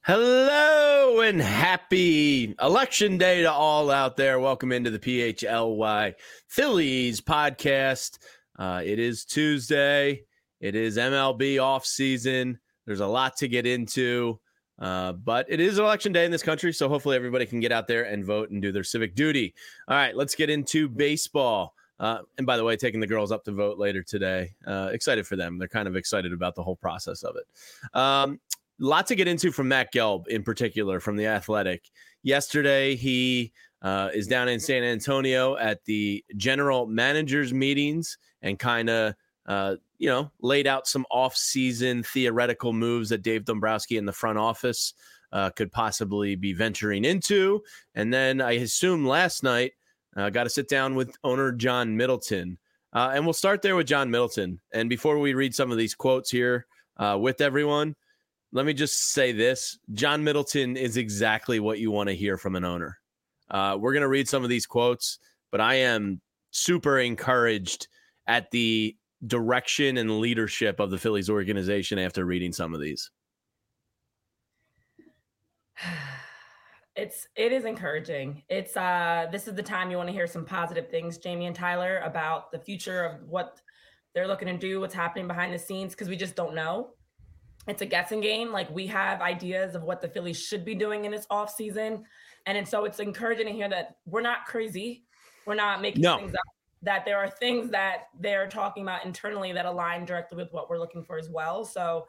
Hello and happy election day to all out there. Welcome into the PHLY Phillies podcast. It is Tuesday. It is MLB off season. There's a lot to get into, but it is election day in this country, so hopefully everybody can get out there and vote and do their civic duty. All right, let's get into baseball. And by the way, taking the girls up to vote later today. Excited for them. They're kind of excited about the whole process of it. Lot to get into from Matt Gelb in particular from The Athletic. Yesterday, he is down in San Antonio at the general managers meetings and kind of, laid out some off-season theoretical moves that Dave Dombrowski in the front office could possibly be venturing into. And then I assume last night, got to sit down with owner John Middleton. And we'll start there with John Middleton. And before we read some of these quotes here with everyone, let me just say this. John Middleton is exactly what you want to hear from an owner. We're going to read some of these quotes, but I am super encouraged at the direction and leadership of the Phillies organization after reading some of these. It is encouraging. This is the time you want to hear some positive things, Jamie and Tyler, about the future of what they're looking to do, what's happening behind the scenes, because we just don't know. It's a guessing game. Like, we have ideas of what the Phillies should be doing in this offseason. And so it's encouraging to hear that we're not crazy. We're not making things up, that there are things that they're talking about internally that align directly with what we're looking for as well. So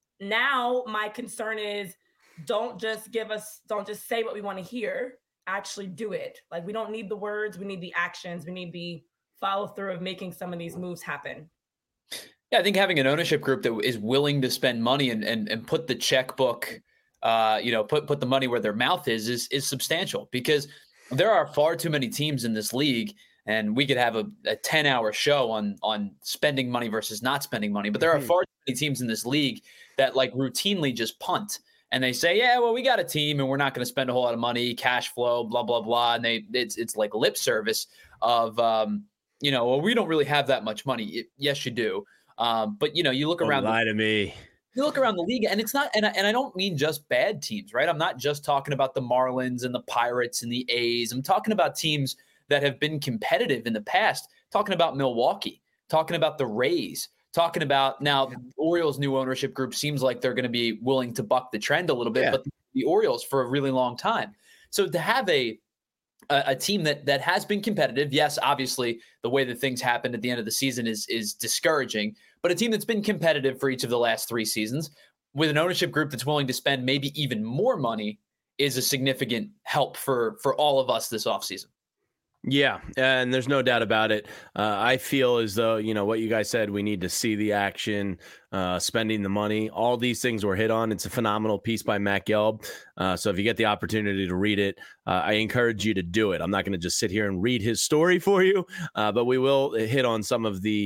now my concern is don't just say what we want to hear, actually do it. Like, we don't need the words. We need the actions. We need the follow through of making some of these moves happen. Yeah, I think having an ownership group that is willing to spend money and put the checkbook, put the money where their mouth is substantial, because there are far too many teams in this league, and we could have a 10-hour show on spending money versus not spending money. But there are far too many teams in this league that like routinely just punt, and they say, yeah, well, we got a team and we're not going to spend a whole lot of money, cash flow, blah, blah, blah. And it's like lip service of, well, we don't really have that much money. Yes, you do. But you look around. Lie to me. You look around the league, and it's not. And I don't mean just bad teams, right? I'm not just talking about the Marlins and the Pirates and the A's. I'm talking about teams that have been competitive in the past. Talking about Milwaukee. Talking about the Rays. Talking about now the Orioles' new ownership group seems like they're going to be willing to buck the trend a little bit, but the Orioles for a really long time. So to have a team that has been competitive, yes, obviously the way that things happened at the end of the season is discouraging, but a team that's been competitive for each of the last 3 seasons with an ownership group that's willing to spend maybe even more money is a significant help for all of us this offseason. Yeah, and there's no doubt about it. I feel as though, what you guys said, we need to see the action, spending the money. All these things were hit on. It's a phenomenal piece by Matt Gelb. So if you get the opportunity to read it, I encourage you to do it. I'm not going to just sit here and read his story for you, but we will hit on some of the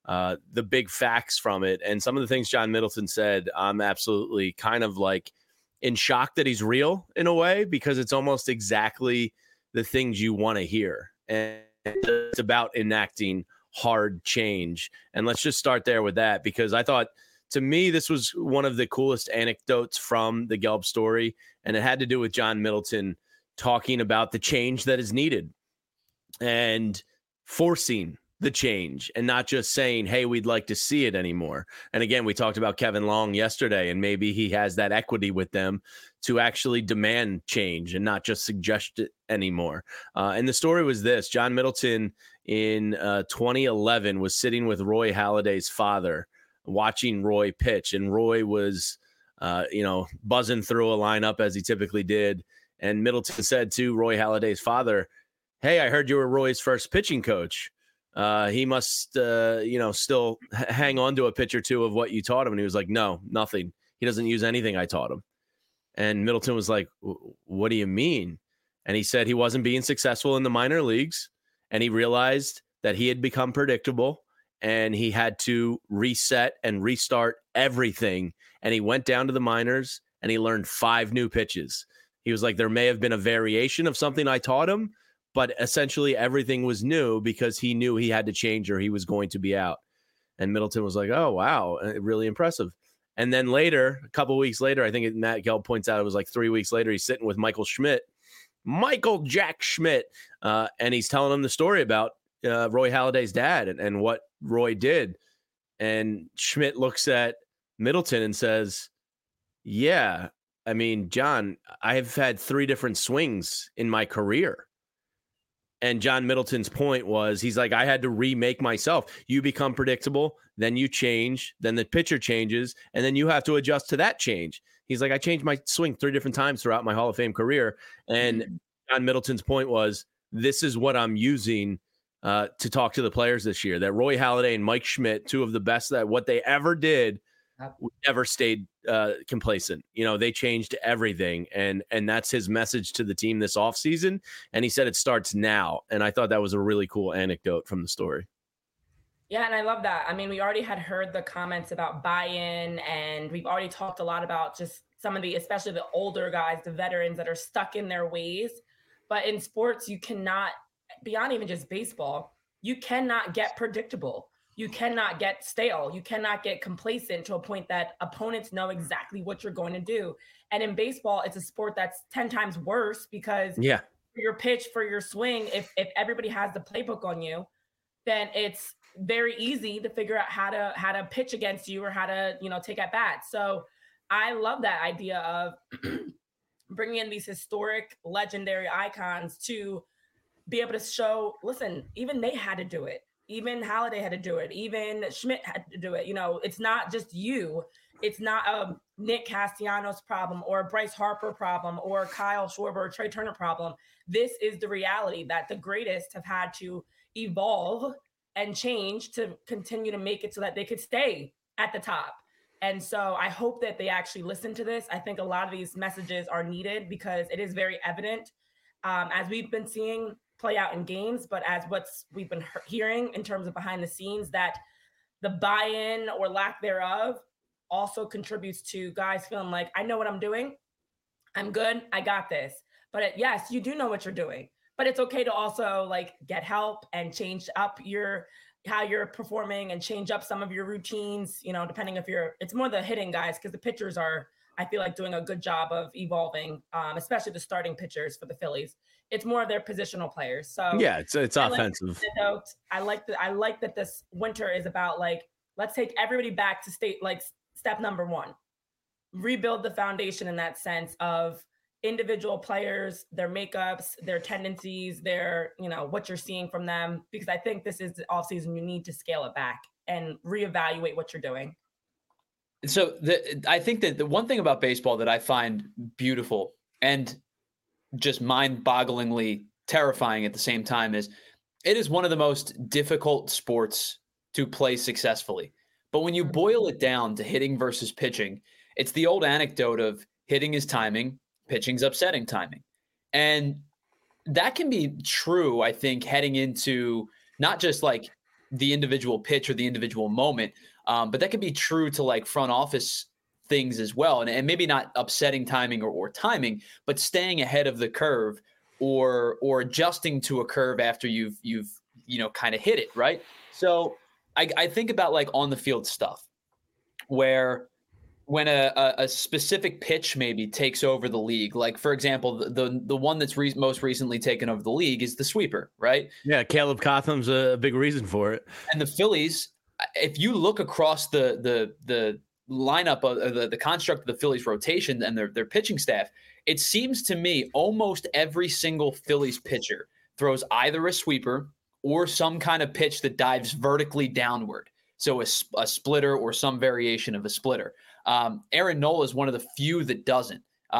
big facts from it. And some of the things John Middleton said, I'm absolutely kind of like in shock that he's real in a way, because it's almost exactly the things you want to hear. And it's about enacting hard change. And let's just start there with that, because I thought, to me, this was one of the coolest anecdotes from the Gelb story. And it had to do with John Middleton talking about the change that is needed and forcing the change and not just saying, hey, we'd like to see it anymore. And again, we talked about Kevin Long yesterday, and maybe he has that equity with them to actually demand change and not just suggest it anymore. And the story was this: John Middleton in 2011 was sitting with Roy Halladay's father, watching Roy pitch. And Roy was, buzzing through a lineup as he typically did. And Middleton said to Roy Halladay's father, hey, I heard you were Roy's first pitching coach. He must, still hang on to a pitch or two of what you taught him. And he was like, no, nothing. He doesn't use anything I taught him. And Middleton was like, what do you mean? And he said he wasn't being successful in the minor leagues. And he realized that he had become predictable and he had to reset and restart everything. And he went down to the minors and he learned 5 new pitches. He was like, there may have been a variation of something I taught him, but essentially everything was new because he knew he had to change or he was going to be out. And Middleton was like, oh, wow, really impressive. And then later, a couple of weeks later, I think Matt Gelb points out it was like 3 weeks later, he's sitting with Michael Jack Schmidt, and he's telling him the story about Roy Halladay's dad and what Roy did. And Schmidt looks at Middleton and says, yeah, I mean, John, I've had 3 different swings in my career. And John Middleton's point was, he's like, I had to remake myself. You become predictable, then you change, then the pitcher changes, and then you have to adjust to that change. He's like, I changed my swing 3 different times throughout my Hall of Fame career. And John Middleton's point was, this is what I'm using to talk to the players this year, that Roy Halladay and Mike Schmidt, 2 of the best that what they ever did, never stayed complacent. They changed everything. And that's his message to the team this offseason. And he said it starts now. And I thought that was a really cool anecdote from the story. Yeah, and I love that. I mean, we already had heard the comments about buy-in, and we've already talked a lot about just some of the, especially the older guys, the veterans that are stuck in their ways. But in sports, you cannot, beyond even just baseball, you cannot get predictable. You cannot get stale. You cannot get complacent to a point that opponents know exactly what you're going to do. And in baseball, it's a sport that's 10 times worse because for your pitch, for your swing, if everybody has the playbook on you, then it's very easy to figure out how to pitch against you or how to, take at bat. So I love that idea of bringing in these historic, legendary icons to be able to show, listen, even they had to do it. Even Halladay had to do it. Even Schmidt had to do it. It's not just you. It's not a Nick Castellanos problem or a Bryce Harper problem or Kyle Schwarber or Trey Turner problem. This is the reality that the greatest have had to evolve and change to continue to make it so that they could stay at the top. And so I hope that they actually listen to this. I think a lot of these messages are needed because it is very evident, as we've been seeing play out in games, but as we've been hearing in terms of behind the scenes, that the buy-in or lack thereof also contributes to guys feeling like, I know what I'm doing. I'm good. I got this. But yes, you do know what you're doing, but it's okay to also get help and change up how you're performing and change up some of your routines, depending if it's more the hitting guys, because the pitchers are, I feel like, doing a good job of evolving, especially the starting pitchers for the Phillies. It's more of their positional players. So yeah, it's offensive. I like that this winter is about let's take everybody back to step number 1, rebuild the foundation in that sense of individual players, their makeups, their tendencies, their, what you're seeing from them, because I think this is the offseason. You need to scale it back and reevaluate what you're doing. So I think that the one thing about baseball that I find beautiful and just mind-bogglingly terrifying at the same time is it is one of the most difficult sports to play successfully. But when you boil it down to hitting versus pitching, it's the old anecdote of hitting is timing, pitching's upsetting timing. And that can be true, I think, heading into not just the individual pitch or the individual moment, but that can be true to front office things as well. And maybe not upsetting timing or timing, but staying ahead of the curve or adjusting to a curve after you've kind of hit it, right? So I think about on the field stuff where when a specific pitch maybe takes over the league, for example, the one that's most recently taken over the league is the sweeper, right? Yeah, Caleb Cotham's a big reason for it. And the Phillies, if you look across the lineup of the construct of the Phillies rotation and their pitching staff, it seems to me almost every single Phillies pitcher throws either a sweeper or some kind of pitch that dives vertically downward. So a splitter or some variation of a splitter. Aaron Nola is one of the few that doesn't.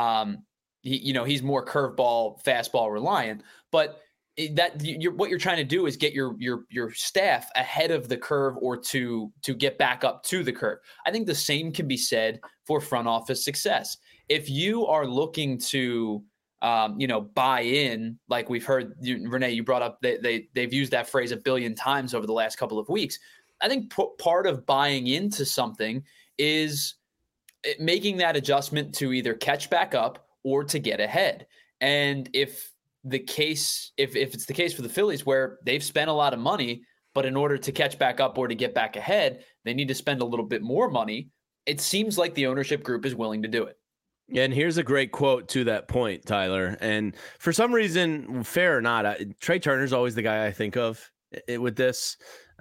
He's more curveball, fastball reliant, but what you're trying to do is get your staff ahead of the curve or to get back up to the curve. I think the same can be said for front office success. If you are looking to buy in, like we've heard, Renee, you brought up, they've used that phrase a billion times over the last couple of weeks. I think part of buying into something is making that adjustment to either catch back up or to get ahead. And if it's the case for the Phillies where they've spent a lot of money, but in order to catch back up or to get back ahead, they need to spend a little bit more money, it seems like the ownership group is willing to do it. And here's a great quote to that point, Tyler. And for some reason, fair or not, Trey Turner's always the guy I think of with this.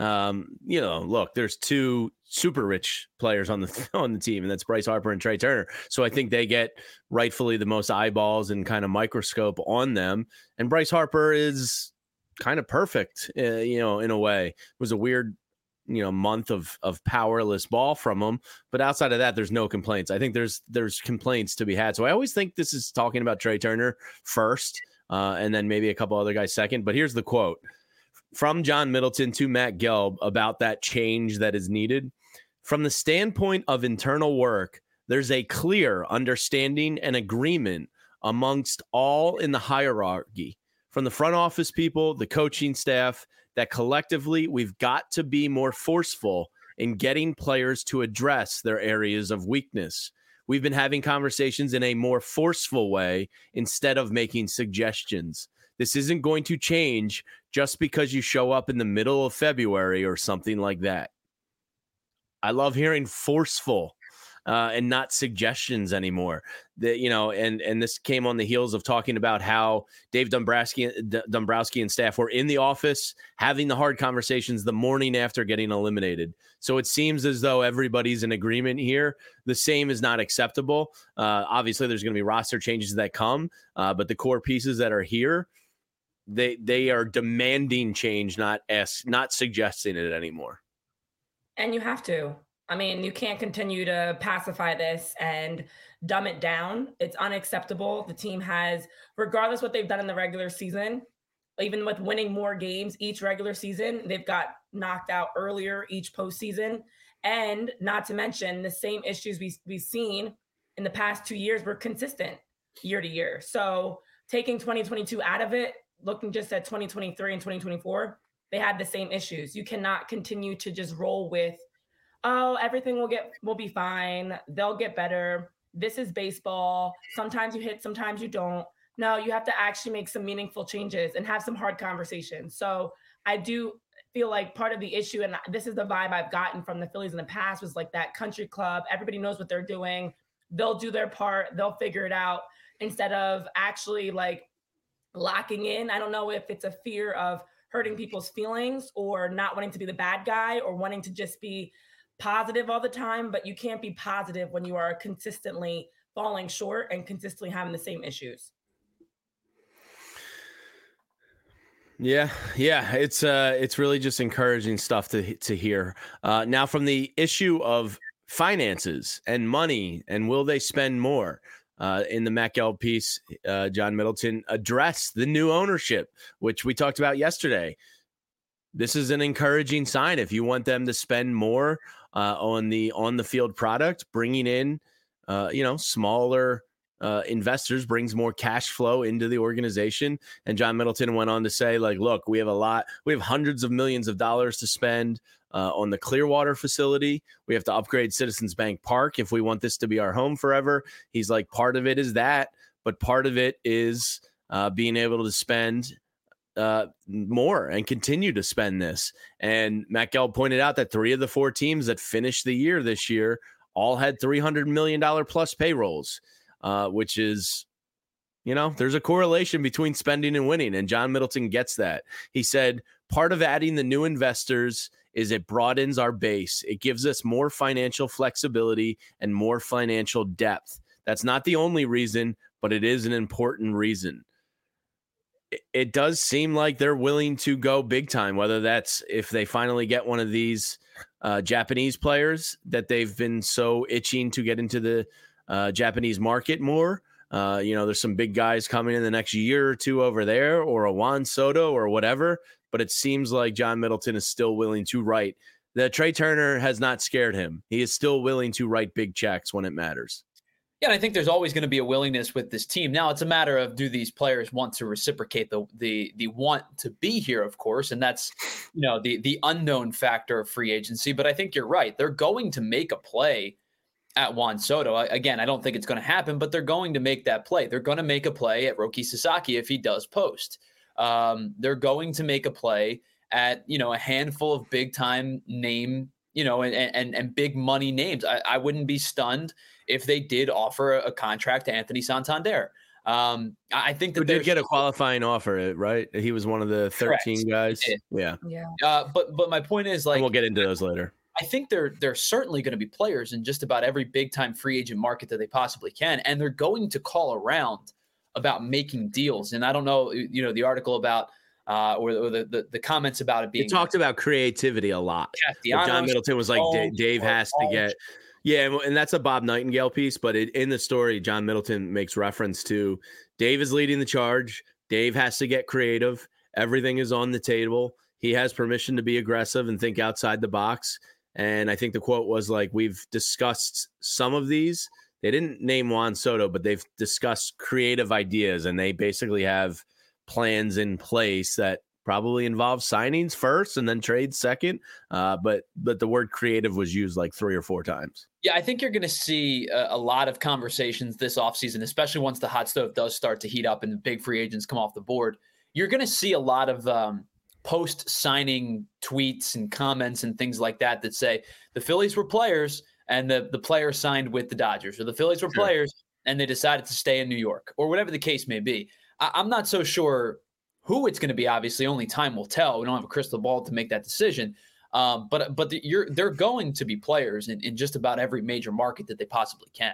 Look, there's two super rich players on the team, and that's Bryce Harper and Trey Turner. So I think they get rightfully the most eyeballs and kind of microscope on them. And Bryce Harper is kind of perfect, in a way. It was a weird month of powerless ball from him, but outside of that, there's no complaints. I think there's complaints to be had. So I always think this is talking about Trey Turner first, and then maybe a couple other guys second. But here's the quote from John Middleton to Matt Gelb about that change that is needed. From the standpoint of internal work, there's a clear understanding and agreement amongst all in the hierarchy, from the front office people, the coaching staff, that collectively we've got to be more forceful in getting players to address their areas of weakness. We've been having conversations in a more forceful way instead of making suggestions. This isn't going to change just because you show up in the middle of February or something like that. I love hearing forceful and not suggestions anymore. And this came on the heels of talking about how Dave Dombrowski and staff were in the office having the hard conversations the morning after getting eliminated. So it seems as though everybody's in agreement here. The same is not acceptable. Obviously, there's going to be roster changes that come, but the core pieces that are here, they are demanding change, not suggesting it anymore. And you have to. I mean, you can't continue to pacify this and dumb it down. It's unacceptable. The team has, regardless what they've done in the regular season, even with winning more games each regular season, they've got knocked out earlier each postseason. And not to mention the same issues we've seen in the past 2 years were consistent year to year. So taking 2022 out of it, looking just at 2023 and 2024, they had the same issues. You cannot continue to just roll with, oh, everything will be fine. They'll get better. This is baseball. Sometimes you hit, sometimes you don't. No, you have to actually make some meaningful changes and have some hard conversations. So I do feel like part of the issue, and this is the vibe I've gotten from the Phillies in the past, was like that country club. Everybody knows what they're doing. They'll do their part. They'll figure it out, instead of actually like locking in. I don't know if it's a fear of hurting people's feelings or not wanting to be the bad guy or wanting to just be positive all the time, but you can't be positive when you are consistently falling short and consistently having the same issues. Yeah. It's really just encouraging stuff to hear. Now, from the issue of finances and money and will they spend more, in the Matt Gelb piece, John Middleton addressed the new ownership, which we talked about yesterday. This is an encouraging sign. If you want them to spend more on the field product, bringing in smaller investors brings more cash flow into the organization. And John Middleton went on to say, like, look, we have hundreds of millions of dollars to spend on the Clearwater facility. We have to upgrade Citizens Bank Park if we want this to be our home forever. He's like, part of it is that, but part of it is being able to spend more and continue to spend this. And Matt Gelb pointed out that 3 of the 4 teams that finished the year this year all had $300 million plus payrolls, which is, there's a correlation between spending and winning. And John Middleton gets that. He said, part of adding the new investors is it broadens our base. It gives us more financial flexibility and more financial depth. That's not the only reason, but it is an important reason. It does seem like they're willing to go big time, whether that's if they finally get one of these Japanese players that they've been so itching to get into the Japanese market more. There's some big guys coming in the next year or two over there, or a Juan Soto or whatever. But it seems like John Middleton is still willing to write. The Trey Turner has not scared him. He is still willing to write big checks when it matters. Yeah, and I think there's always going to be a willingness with this team. Now, it's a matter of, do these players want to reciprocate the want to be here, of course, and that's the unknown factor of free agency. But I think you're right. They're going to make a play at Juan Soto. Again, I don't think it's going to happen, but they're going to make that play. They're going to make a play at Roki Sasaki if he does post. They're going to make a play at a handful of big time name and big money names. I wouldn't be stunned if they did offer a contract to Anthony Santander. I think that they did get a qualifying offer, right? He was one of the 13 guys. Yeah. But my point is, like, and we'll get into those later. I think they're certainly going to be players in just about every big time free agent market that they possibly can, and they're going to call around about making deals. And I don't know, the article about or the comments about it being. It talked about creativity a lot. John Middleton was like, Dave has to get. Yeah, and that's a Bob Nightingale piece, but in the story, John Middleton makes reference to Dave is leading the charge. Dave has to get creative. Everything is on the table. He has permission to be aggressive and think outside the box. And I think the quote was like, we've discussed some of these. They didn't name Juan Soto, but they've discussed creative ideas, and they basically have plans in place that probably involve signings first and then trades second. But the word creative was used like 3 or 4 times. Yeah, I think you're going to see a lot of conversations this offseason, especially once the hot stove does start to heat up and the big free agents come off the board. You're going to see a lot of post-signing tweets and comments and things like that say the Phillies were players and the players signed with the Dodgers, or the Phillies were players and they decided to stay in New York, or whatever the case may be. I'm not so sure who it's going to be. Obviously, only time will tell. We don't have a crystal ball to make that decision. But they're going to be players in just about every major market that they possibly can.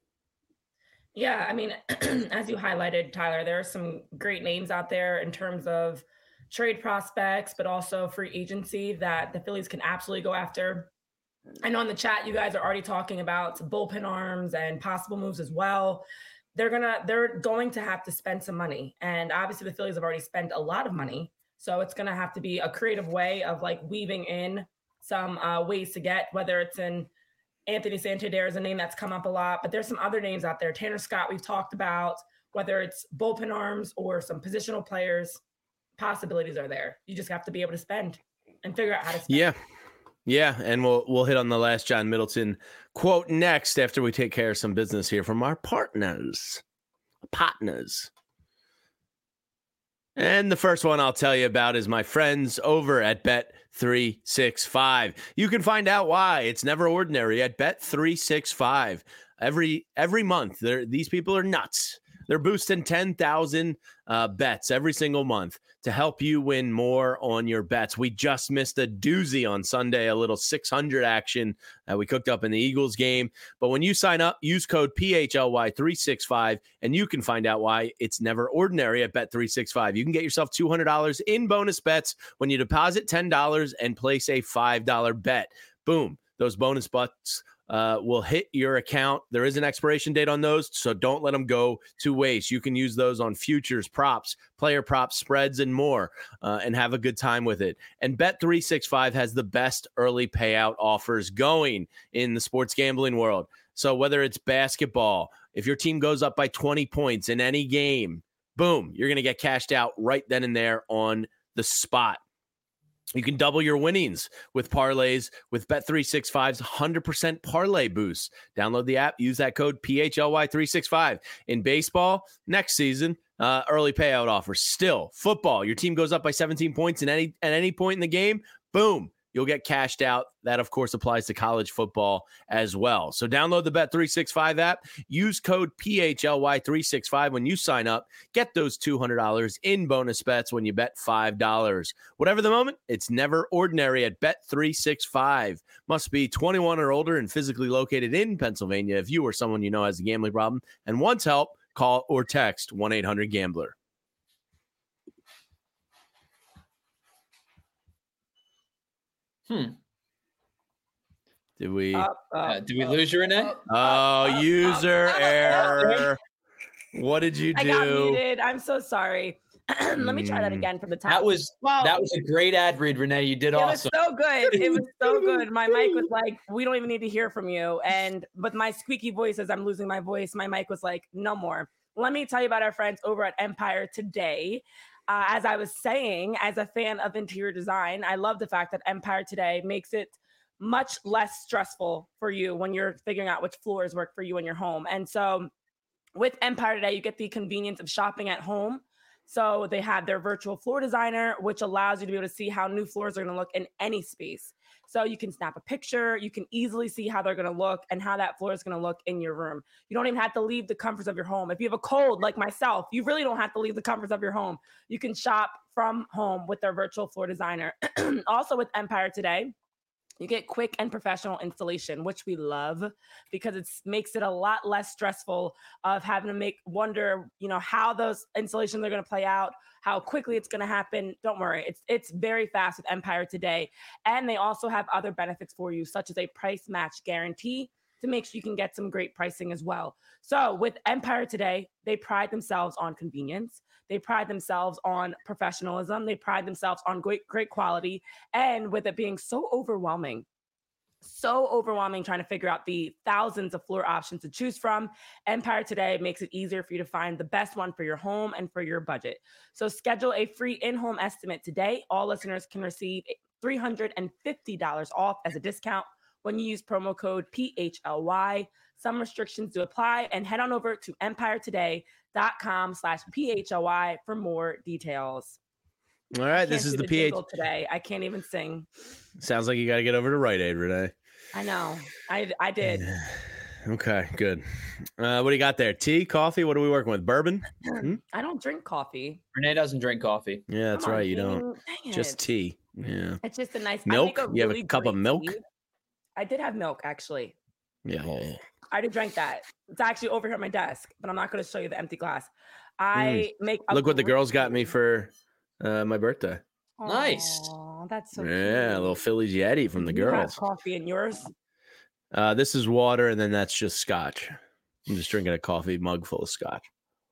Yeah, I mean, as you highlighted, Tyler, there are some great names out there in terms of trade prospects, but also free agency that the Phillies can absolutely go after. I know in the chat, you guys are already talking about bullpen arms and possible moves as well. They're going to have to spend some money. And obviously the Phillies have already spent a lot of money. So it's going to have to be a creative way of like weaving in some ways to get, whether it's in Anthony Santander is a name that's come up a lot, but there's some other names out there. Tanner Scott, we've talked about, whether it's bullpen arms or some positional players, possibilities are there. You just have to be able to spend and figure out how to spend. Yeah. And we'll hit on the last John Middleton quote next after we take care of some business here from our partners. And the first one I'll tell you about is my friends over at Bet365. You can find out why it's never ordinary at Bet365. Every month, these people are nuts. They're boosting 10,000 bets every single month to help you win more on your bets. We just missed a doozy on Sunday, a little 600 action that we cooked up in the Eagles game. But when you sign up, use code PHLY365, and you can find out why it's never ordinary at Bet365. You can get yourself $200 in bonus bets when you deposit $10 and place a $5 bet. Boom. Those bonus bets will hit your account. There is an expiration date on those, so don't let them go to waste. You can use those on futures, props, player props, spreads, and more, and have a good time with it. And Bet365 has the best early payout offers going in the sports gambling world. So whether it's basketball, if your team goes up by 20 points in any game, boom, you're going to get cashed out right then and there on the spot. You can double your winnings with parlays with Bet365's 100% parlay boost. Download the app, use that code PHLY365. In baseball, next season, early payout offers. Still, football, your team goes up by 17 points at any point in the game, boom, you'll get cashed out. That, of course, applies to college football as well. So download the Bet365 app. Use code PHLY365 when you sign up. Get those $200 in bonus bets when you bet $5. Whatever the moment, it's never ordinary at Bet365. Must be 21 or older and physically located in Pennsylvania. If you or someone you know has a gambling problem and wants help, call or text 1-800-GAMBLER. Did we lose you, Renee? User error. What did you do? I got muted. I'm so sorry. Let me try that again from the top. That was a great ad read, Renee. You did awesome. It was so good. It was so good. My mic was like, we don't even need to hear from you. And with my squeaky voice, as I'm losing my voice, my mic was like, no more. Let me tell you about our friends over at Empire Today. As I was saying, as a fan of interior design, I love the fact that Empire Today makes it much less stressful for you when you're figuring out which floors work for you in your home. And so with Empire Today, you get the convenience of shopping at home, So they have their virtual floor designer, which allows you to be able to see how new floors are going to look in any space. So you can snap a picture, you can easily see how they're going to look and how that floor is going to look in your room. You don't even have to leave the comforts of your home. If you have a cold like myself, you really don't have to leave the comforts of your home. You can shop from home with their virtual floor designer. Also with Empire Today, you get quick and professional installation, which we love because it makes it a lot less stressful of having to wonder, how those installations are going to play out, how quickly it's going to happen. Don't worry. It's very fast with Empire Today. And they also have other benefits for you, such as a price match guarantee to make sure you can get some great pricing as well. So with Empire Today, they pride themselves on convenience. They pride themselves on professionalism. They pride themselves on great quality. And with it being so overwhelming trying to figure out the thousands of floor options to choose from, Empire Today makes it easier for you to find the best one for your home and for your budget. So schedule a free in-home estimate today. All listeners can receive $350 off as a discount when you use promo code PHLY. Some restrictions do apply, and head on over to empiretoday.com/PHLY for more details. All right, this is the PH today. I can't even sing. Sounds like you got to get over to Rite Aid, Renee. I know. I did. Okay, good. What do you got there? Tea, coffee? What are we working with? Bourbon? I don't drink coffee. Renee doesn't drink coffee. Yeah, that's right. You don't. Just tea. Yeah. It's just a nice milk. You have a cup of milk? Tea. I did have milk, actually. Yeah. I did drink that. It's actually over here at my desk, but I'm not going to show you the empty glass. I make. Look what the girls got me for my birthday. Nice. Oh, that's so cute. A little Phillies Yeti from the girls. You have coffee in yours? This is water, and then that's just scotch. I'm just drinking a coffee mug full of scotch.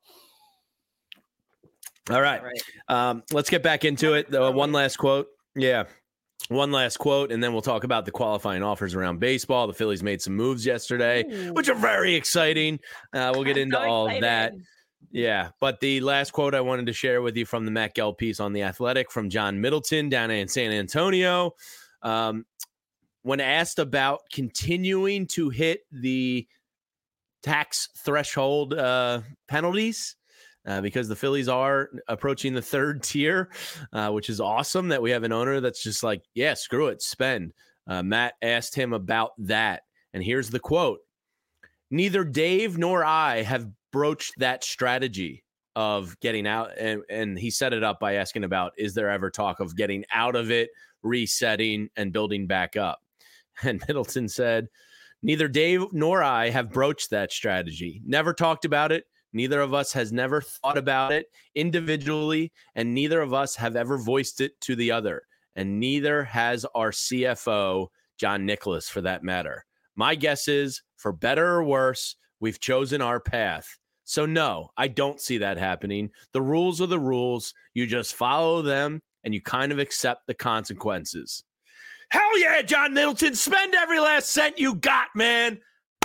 All right. Let's get back into it. One last quote. Yeah. One last quote, and then we'll talk about the qualifying offers around baseball. The Phillies made some moves yesterday, which are very exciting. We'll get into all of that. Yeah, but the last quote I wanted to share with you from the Matt Gelb piece on The Athletic from John Middleton down in San Antonio. When asked about continuing to hit the tax threshold penalties, because the Phillies are approaching the third tier, which is awesome that we have an owner that's just like, yeah, screw it, spend. Matt asked him about that, and here's the quote. Neither Dave nor I have broached that strategy of getting out, and he set it up by asking about, is there ever talk of getting out of it, resetting, and building back up? And Middleton said, neither Dave nor I have broached that strategy, never talked about it. Neither of us has never thought about it individually, and neither of us have ever voiced it to the other, and neither has our CFO, John Nicholas, for that matter. My guess is, for better or worse, we've chosen our path. So no, I don't see that happening. The rules are the rules. You just follow them, and you kind of accept the consequences. Hell yeah, John Middleton, spend every last cent you got, man.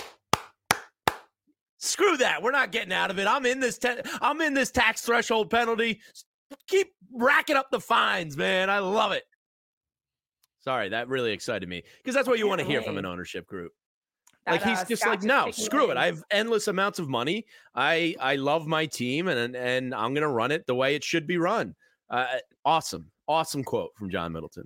Screw that. We're not getting out of it. I'm in this tax threshold penalty. Keep racking up the fines, man. I love it. Sorry, that really excited me because that's what you want to hear from an ownership group. Like he's just like, no, screw it. I have endless amounts of money. I love my team, and I'm gonna run it the way it should be run. Awesome quote from John Middleton.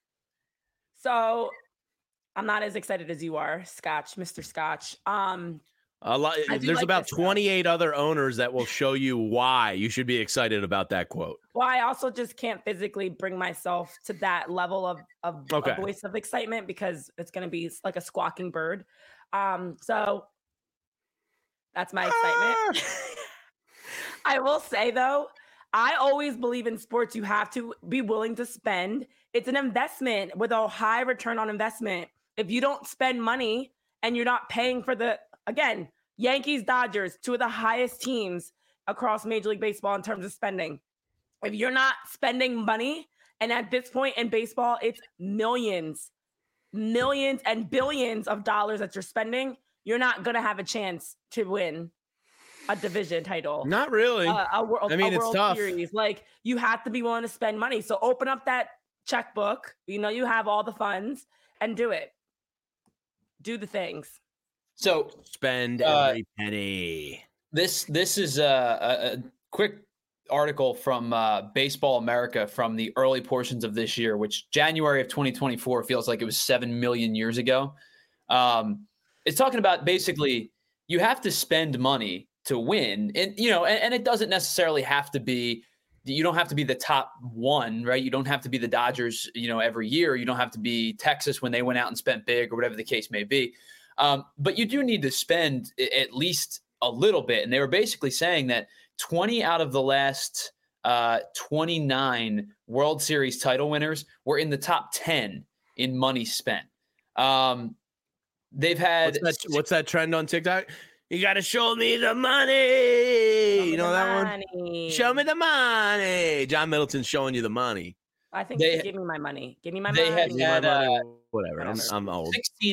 So I'm not as excited as you are, Mr. Scotch. A lot. There's about 28 other owners that will show you why you should be excited about that quote. Well, I also just can't physically bring myself to that level of a voice of excitement because it's going to be like a squawking bird. So that's my excitement. I will say, though, I always believe in sports, you have to be willing to spend. It's an investment with a high return on investment. If you don't spend money and you're not paying for again, Yankees, Dodgers, two of the highest teams across Major League Baseball in terms of spending. If you're not spending money, and at this point in baseball, it's millions and billions of dollars that you're spending, you're not going to have a chance to win a division title. Not really. A World it's tough. Series. Like, you have to be willing to spend money. So open up that checkbook. You have all the funds and do it. Do the things. So spend every penny. This is a quick article from Baseball America from the early portions of this year, which January of 2024 feels like it was 7 million years ago. It's talking about basically you have to spend money to win. And, and it doesn't necessarily have to be, you don't have to be the top one, right? You don't have to be the Dodgers, every year. You don't have to be Texas when they went out and spent big or whatever the case may be. But you do need to spend at least a little bit. And they were basically saying that 20 out of the last 29 World Series title winners were in the top 10 in money spent. They've had what's that trend on TikTok? You got to show me the money. You know that one? Show me the money. John Middleton's showing you the money. I think give me my money. Give me my money. They have had whatever. I'm old.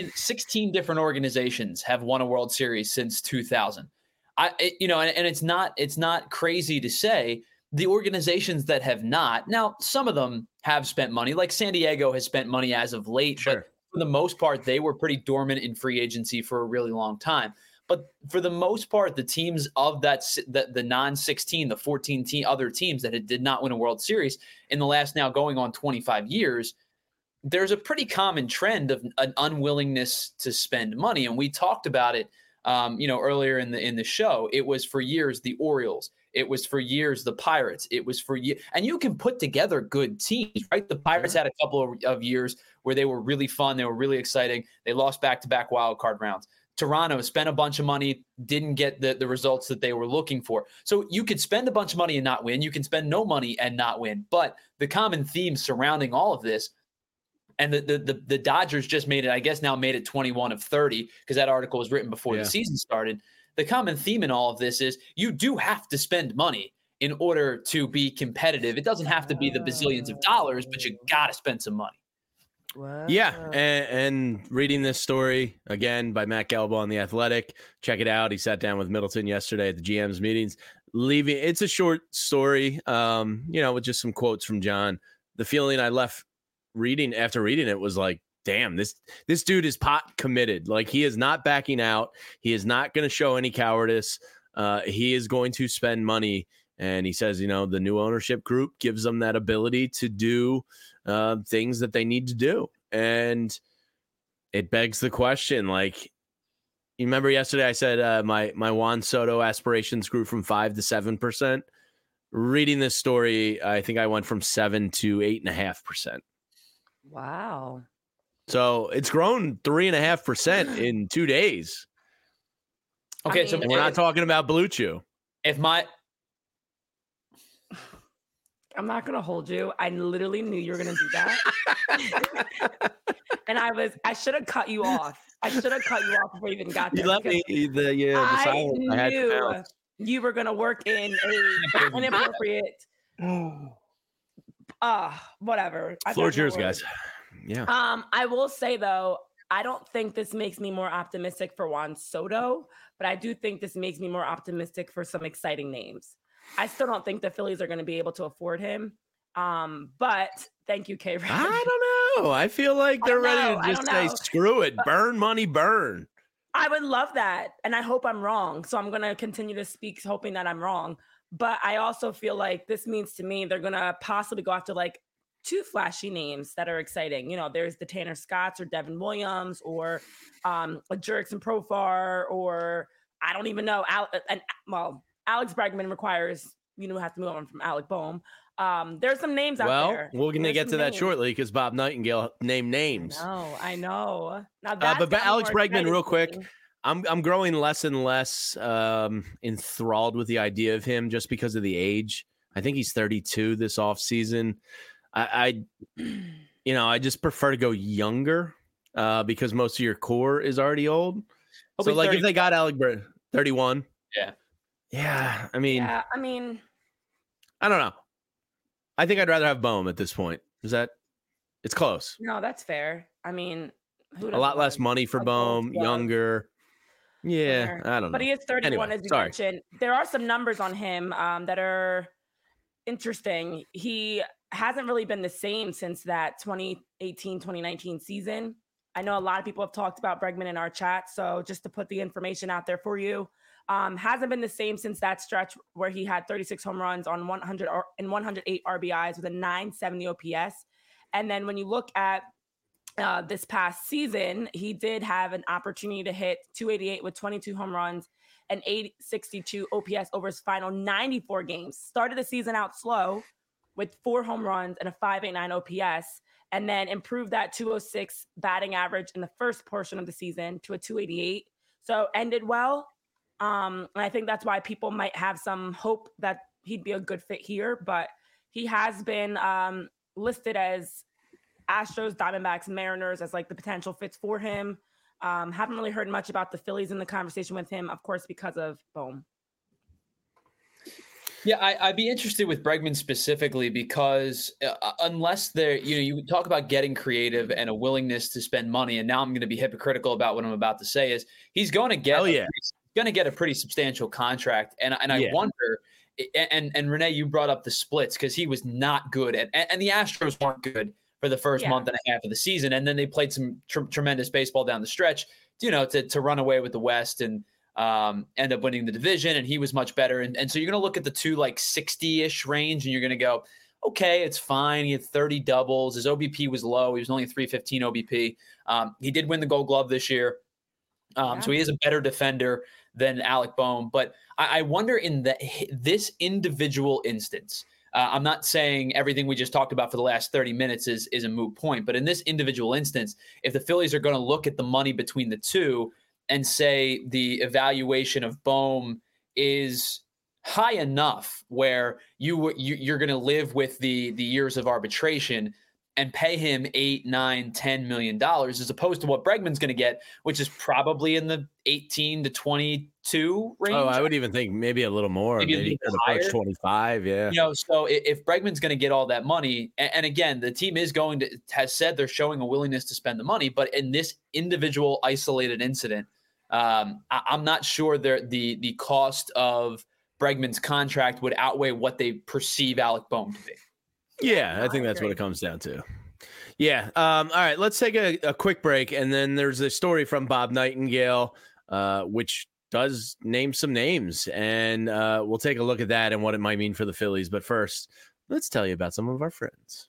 16 different organizations have won a World Series since 2000. And it's not crazy to say the organizations that have not. Now, some of them have spent money, like San Diego has spent money as of late, sure. But for the most part, they were pretty dormant in free agency for a really long time. But for the most part, the teams of the non-16, the 14 other teams that did not win a World Series in the last now going on 25 years, there's a pretty common trend of an unwillingness to spend money. And we talked about it, earlier in the show. It was for years the Orioles. It was for years the Pirates. It was for years. And you can put together good teams, right? The Pirates had a couple of years where they were really fun. They were really exciting. They lost back-to-back wild card rounds. Toronto spent a bunch of money, didn't get the results that they were looking for. So you could spend a bunch of money and not win. You can spend no money and not win. But the common theme surrounding all of this, and the Dodgers just made it 21 of 30 because that article was written before the season started. The common theme in all of this is you do have to spend money in order to be competitive. It doesn't have to be the bazillions of dollars, but you got to spend some money. Wow. Yeah, and reading this story again by Matt Gelb on The Athletic. Check it out. He sat down with Middleton yesterday at the GM's meetings. It's a short story, with just some quotes from John. The feeling I left after reading it was like, damn, this dude is pot committed. Like, he is not backing out. He is not going to show any cowardice. He is going to spend money. And he says, the new ownership group gives them that ability to do things that they need to do. And it begs the question, like, you remember yesterday I said my Juan Soto aspirations grew from 5 to 7%. Reading this story, I think I went from 7 to 8.5%. Wow. So it's grown 3.5% in 2 days. Okay, so we're not talking about Blue Chew. I'm not going to hold you. I literally knew you were going to do that. And I should have cut you off. I should have cut you off before you even got there. You let me the silence. I knew you were going to work in an inappropriate, whatever. Floor's yours, guys. Yeah. I will say, though, I don't think this makes me more optimistic for Juan Soto, but I do think this makes me more optimistic for some exciting names. I still don't think the Phillies are going to be able to afford him. But thank you, K. I don't know. I feel like they're ready to just say, screw it. Burn money, burn. I would love that. And I hope I'm wrong. So I'm going to continue to speak, hoping that I'm wrong. But I also feel like this means to me they're going to possibly go after like 2 flashy names that are exciting. There's the Tanner Scotts or Devin Williams or a Jurickson Profar, or I don't even know. Alex Bregman requires, have to move on from Alec Boehm. There's some names out there. Well, we're going to get to that shortly because Bob Nightingale named names. I know. Now but Alex Bregman, real quick, I'm growing less and less enthralled with the idea of him just because of the age. I think he's 32 this offseason. I just prefer to go younger because most of your core is already old. So, like, if they got Alec Bregman, 31. Yeah, I mean, I don't know. I think I'd rather have Boehm at this point. It's close. No, that's fair. I mean, a lot less money for Boehm, younger. Yeah, fair. I don't know. But he is 31, as you mentioned. There are some numbers on him that are interesting. He hasn't really been the same since that 2018-2019 season. I know a lot of people have talked about Bregman in our chat, so just to put the information out there for you, hasn't been the same since that stretch where he had 36 home runs on 100 and 108 RBIs with a 970 OPS. And then when you look at this past season, he did have an opportunity to hit 288 with 22 home runs and 862 OPS over his final 94 games. Started the season out slow with 4 home runs and a 589 OPS, and then improved that 206 batting average in the first portion of the season to a 288. So ended well. And I think that's why people might have some hope that he'd be a good fit here, but he has been listed as Astros, Diamondbacks, Mariners as like the potential fits for him. Haven't really heard much about the Phillies in the conversation with him, of course, because of Bohm. Yeah, I'd be interested with Bregman specifically because unless there, you talk about getting creative and a willingness to spend money, and now I'm going to be hypocritical about what I'm about to say is he's going to get a pretty substantial contract, and I wonder. And Renee, you brought up the splits because he was not good and the Astros weren't good for the first month and a half of the season, and then they played some tremendous baseball down the stretch, to run away with the West and end up winning the division, and he was much better. And so you're going to look at the 260-ish range, and you're going to go, okay, it's fine. He had 30 doubles. His OBP was low. He was only 315 OBP. He did win the Gold Glove this year. So he is a better defender than Alec Bohm. But I wonder in this individual instance, I'm not saying everything we just talked about for the last 30 minutes is a moot point, but in this individual instance, if the Phillies are going to look at the money between the two and say the evaluation of Bohm is high enough where you're going to live with the years of arbitration and pay him $8, $9, $10 million as opposed to what Bregman's going to get, which is probably in the 18 to 22 range. Oh, I would even think maybe a little more, maybe approach 25. Yeah. So if Bregman's going to get all that money, and again, the team has said they're showing a willingness to spend the money, but in this individual isolated incident, I'm not sure the cost of Bregman's contract would outweigh what they perceive Alec Bohm to be. Yeah, I think that's what it comes down to. Yeah. All right, let's take a quick break. And then there's a story from Bob Nightingale, which does name some names. And we'll take a look at that and what it might mean for the Phillies. But first, let's tell you about some of our friends.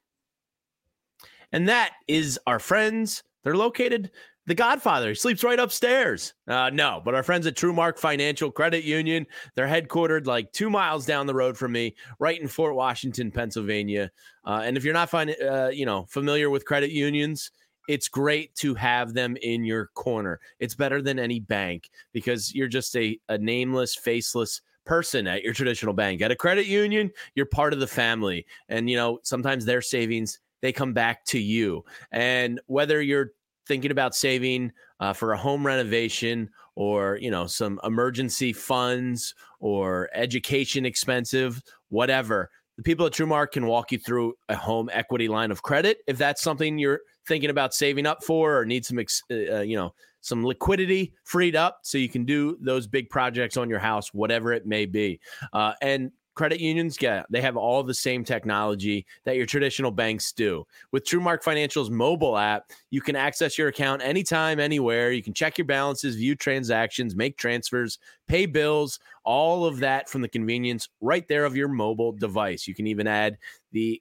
And that is our friends. They're located The Godfather. He sleeps right upstairs. No, but our friends at TrueMark Financial Credit Union, they're headquartered like 2 miles down the road from me, right in Fort Washington, Pennsylvania. And if you're not familiar with credit unions, it's great to have them in your corner. It's better than any bank because you're just a nameless, faceless person at your traditional bank. At a credit union, you're part of the family. And, sometimes their savings, they come back to you. And whether you're thinking about saving for a home renovation or, some emergency funds or education expensive, whatever, the people at TrueMark can walk you through a home equity line of credit. If that's something you're thinking about saving up for or need some liquidity freed up so you can do those big projects on your house, whatever it may be. And credit unions, they have all the same technology that your traditional banks do. With TrueMark Financial's mobile app, you can access your account anytime, anywhere. You can check your balances, view transactions, make transfers, pay bills, all of that from the convenience right there of your mobile device. You can even add the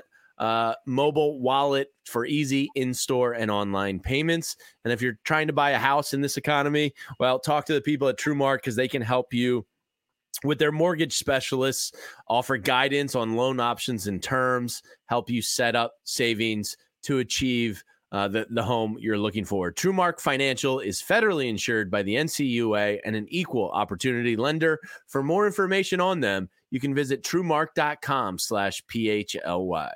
mobile wallet for easy in-store and online payments. And if you're trying to buy a house in this economy, well, talk to the people at TrueMark because they can help you with their mortgage specialists, offer guidance on loan options and terms, help you set up savings to achieve the home you're looking for. TrueMark Financial is federally insured by the NCUA and an equal opportunity lender. For more information on them, you can visit truemark.com/PHLY.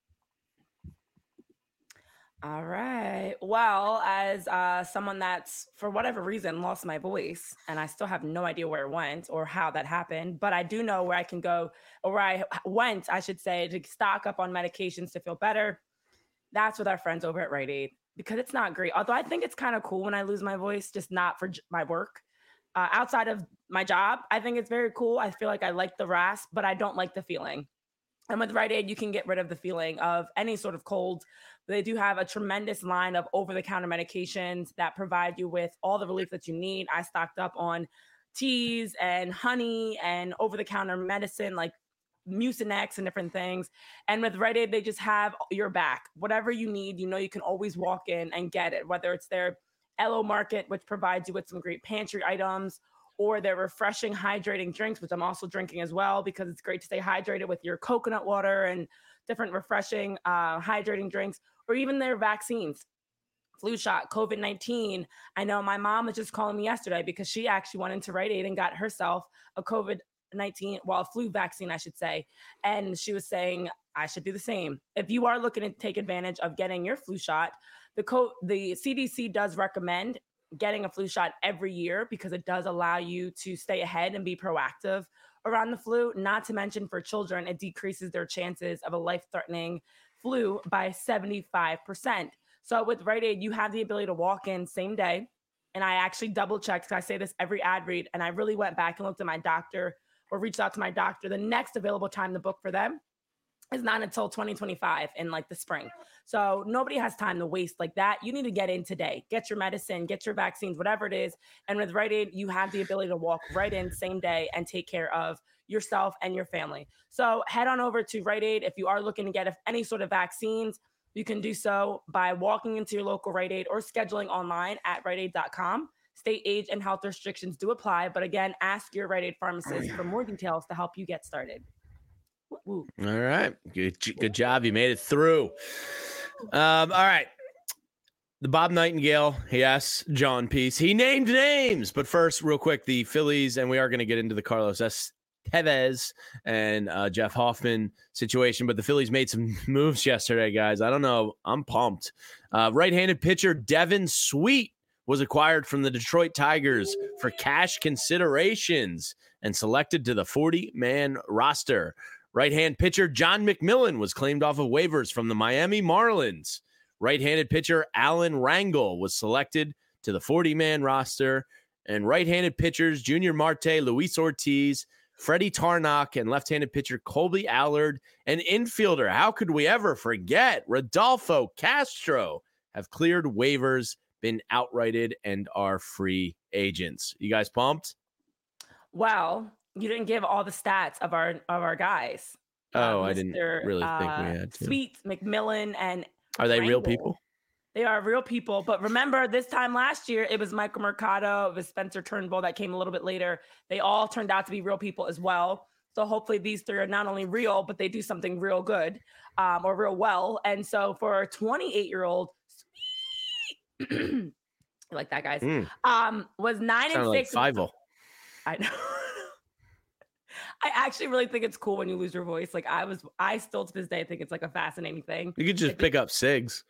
All right. Well, as someone that's, for whatever reason, lost my voice, and I still have no idea where it went or how that happened, but I do know where I can go, or where I went, I should say, to stock up on medications to feel better. That's with our friends over at Rite Aid, because it's not great. Although I think it's kind of cool when I lose my voice, just not for my work. Outside of my job, I think it's very cool. I feel like I like the rasp, but I don't like the feeling. And with Rite Aid, you can get rid of the feeling of any sort of cold. They do have a tremendous line of over-the-counter medications that provide you with all the relief that you need. I stocked up on teas and honey and over-the-counter medicine like Mucinex and different things. And with Rite Aid, they just have your back. Whatever you need, you can always walk in and get it, whether it's their Elo Market, which provides you with some great pantry items, or their refreshing, hydrating drinks, which I'm also drinking as well because it's great to stay hydrated with your coconut water and different refreshing, hydrating drinks, or even their vaccines. Flu shot, COVID-19. I know my mom was just calling me yesterday because she actually went into Rite Aid and got herself a COVID-19, a flu vaccine, I should say. And she was saying, I should do the same. If you are looking to take advantage of getting your flu shot, the CDC does recommend getting a flu shot every year because it does allow you to stay ahead and be proactive around the flu. Not to mention for children, it decreases their chances of a life-threatening flu by 75%. So with Rite Aid, you have the ability to walk in same day. And I actually double checked, because I say this every ad read, and I really went back and looked at my doctor or reached out to my doctor. The next available time to book for them is not until 2025 in like the spring. So nobody has time to waste like that. You need to get in today, get your medicine, get your vaccines, whatever it is. And with Rite Aid, you have the ability to walk right in same day and take care of yourself and your family. So head on over to Rite Aid. If you are looking to get any sort of vaccines, you can do so by walking into your local Rite Aid or scheduling online at riteaid.com. State, age, and health restrictions do apply. But again, ask your Rite Aid pharmacist for more details to help you get started. All right. Good job. You made it through. All right. The Bob Nightingale, yes, John piece. He named names. But first, real quick, the Phillies, and we are going to get into the Carlos Tevez and Jeff Hoffman situation, but the Phillies made some moves yesterday, guys. I don't know. I'm pumped. Right-handed pitcher Devin Sweet was acquired from the Detroit Tigers for cash considerations and selected to the 40-man roster. Right-hand pitcher John McMillan was claimed off of waivers from the Miami Marlins. Right-handed pitcher Alan Rangel was selected to the 40-man roster. And right-handed pitchers Junior Marte, Luis Ortiz, Freddie Tarnok, and left-handed pitcher Colby Allard, and infielder, how could we ever forget, Rodolfo Castro, have cleared waivers, been outrighted, and are free agents. You guys pumped? Well, you didn't give all the stats of our guys. I didn't really think we had to. Sweet, McMillan, and are they Rangel. Real people? They are real people. But remember, this time last year, it was Michael Mercado, it was Spencer Turnbull that came a little bit later. They all turned out to be real people as well. So hopefully these three are not only real, but they do something real good or real well. And so for a 28-year-old, like that, guys, was 9-6. Like Fievel. I know. I actually really think it's cool when you lose your voice. Like I still to this day think it's like a fascinating thing. You could just pick up cigs.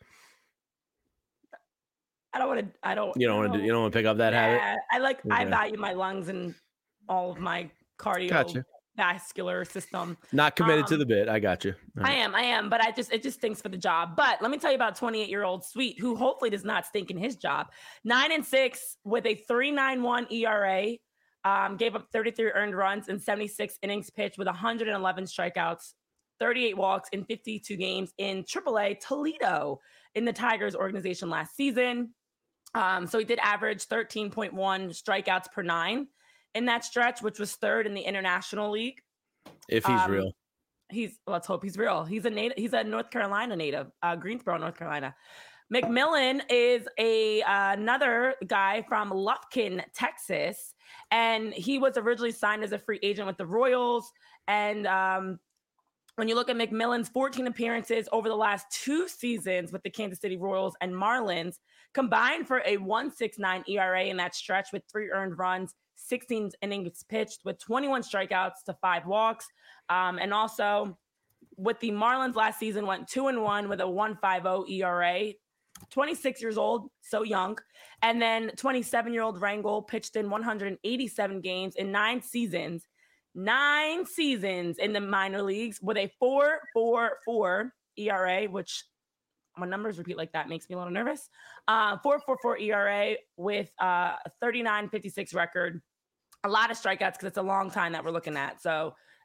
You don't want to pick up that habit. I value my lungs and all of my cardiovascular system. Not committed to the bit. I got you. Right. I am, but it just stinks for the job. But let me tell you about 28-year-old Sweet, who hopefully does not stink in his job. 9-6 with a 3.91 ERA. Gave up 33 earned runs in 76 innings pitched with 111 strikeouts, 38 walks in 52 games in AAA Toledo in the Tigers organization last season. So he did average 13.1 strikeouts per 9 in that stretch, which was third in the International League. If he's real. Let's hope he's real. He's a North Carolina native, Greensboro, North Carolina. McMillan is another guy from Lufkin, Texas, and he was originally signed as a free agent with the Royals. And when you look at McMillan's 14 appearances over the last 2 seasons with the Kansas City Royals and Marlins, combined for a 1.69 ERA in that stretch with 3 earned runs, 16 innings pitched with 21 strikeouts to 5 walks. And also with the Marlins last season went 2-1 with a 1.50 ERA. 26 years old, so young. And then 27-year-old Rangel pitched in 187 games in 9 seasons. 9 seasons in the minor leagues with a 4.44 ERA, which when numbers repeat like that makes me a little nervous. 4.44 ERA with a 39.56 record. A lot of strikeouts because it's a long time that we're looking at. So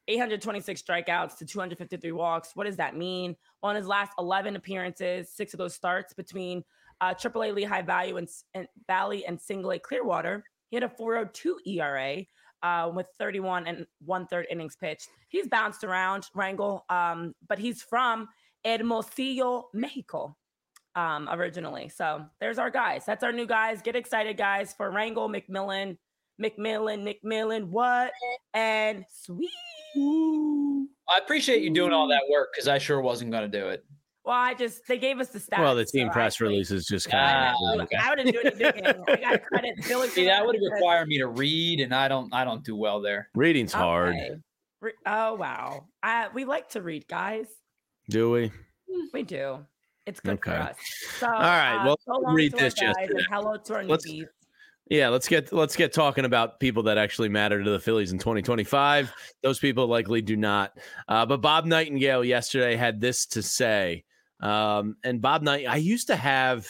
826 strikeouts to 253 walks. What does that mean? On his last 11 appearances, 6 of those starts between AAA Lehigh Valley and Single A Clearwater, he had a 4.02 ERA with 31 and 1/3 innings pitched. He's bounced around, Rangel, but he's from Hermosillo, Mexico, originally. So there's our guys. That's our new guys. Get excited, guys, for Rangel, McMillan, what? And Sweet. I appreciate you doing all that work because I sure wasn't going to do it. Well, they gave us the stats. Well, the team press release is just kind of. Okay. I wouldn't do anything. I got credit. See, that would require me to read, and I don't do well there. Reading's hard. Oh wow, we like to read, guys. Do we? We do. It's good for us. So, all right. Well, so read this just. Hello to our newbies. Yeah, let's get talking about people that actually matter to the Phillies in 2025. Those people likely do not. But Bob Nightingale yesterday had this to say. And Bob Nightingale, I used to have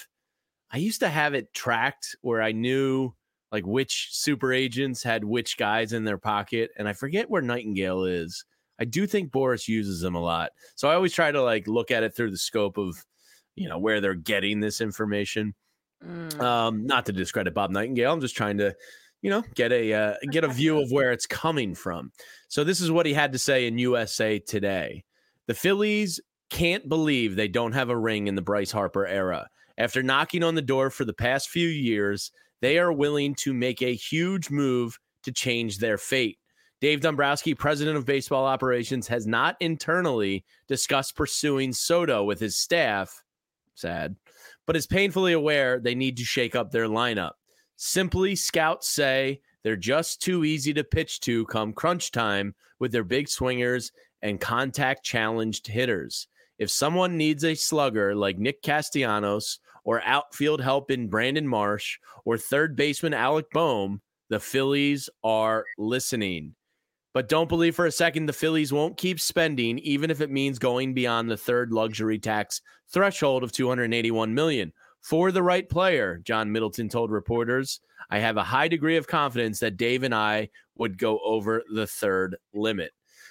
it tracked where I knew like which super agents had which guys in their pocket, and I forget where Nightingale is. I do think Boris uses them a lot, so I always try to like look at it through the scope of where they're getting this information. Not to discredit Bob Nightingale. I'm just trying to, get a view of where it's coming from. So this is what he had to say in USA Today. The Phillies can't believe they don't have a ring in the Bryce Harper era. After knocking on the door for the past few years, they are willing to make a huge move to change their fate. Dave Dombrowski, president of baseball operations, has not internally discussed pursuing Soto with his staff. Sad. But is painfully aware they need to shake up their lineup. Simply, scouts say they're just too easy to pitch to come crunch time with their big swingers and contact-challenged hitters. If someone needs a slugger like Nick Castellanos or outfield help in Brandon Marsh or third baseman Alec Bohm, the Phillies are listening. But don't believe for a second the Phillies won't keep spending, even if it means going beyond the third luxury tax threshold of $281 million. For the right player, John Middleton told reporters, I have a high degree of confidence that Dave and I would go over the third limit.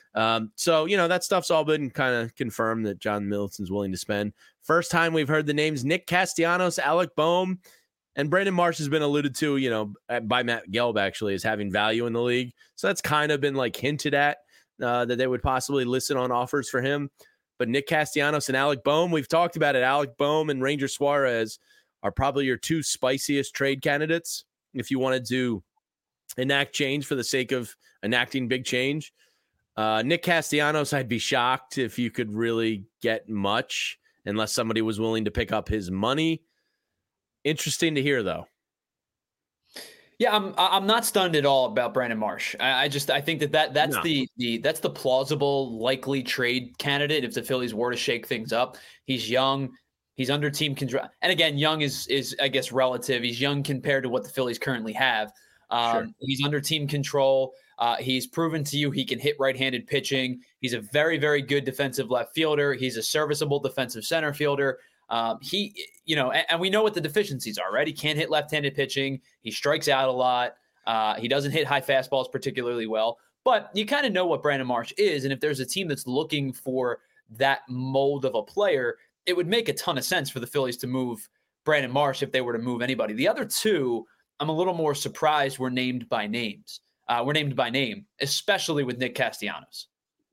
So, that stuff's all been kind of confirmed that John Middleton's willing to spend. First time we've heard the names Nick Castellanos, Alec Bohm, and Brandon Marsh has been alluded to, by Matt Gelb actually as having value in the league. So that's kind of been like hinted at that they would possibly listen on offers for him. But Nick Castellanos and Alec Bohm, we've talked about it. Alec Bohm and Ranger Suarez are probably your two spiciest trade candidates if you wanted to enact change for the sake of enacting big change. Nick Castellanos, I'd be shocked if you could really get much unless somebody was willing to pick up his money. Interesting to hear, though. Yeah, I'm not stunned at all about Brandon Marsh. I think that's the plausible, likely trade candidate if the Phillies were to shake things up. He's young, he's under team control, and again, young is I guess relative. He's young compared to what the Phillies currently have. Sure. He's under team control. He's proven to you he can hit right-handed pitching. He's a very, very good defensive left fielder. He's a serviceable defensive center fielder. And we know what the deficiencies are, right? He can't hit left-handed pitching. He strikes out a lot. He doesn't hit high fastballs particularly well, but you kind of know what Brandon Marsh is. And if there's a team that's looking for that mold of a player, it would make a ton of sense for the Phillies to move Brandon Marsh if they were to move anybody. The other two, I'm a little more surprised were named by name, especially with Nick Castellanos.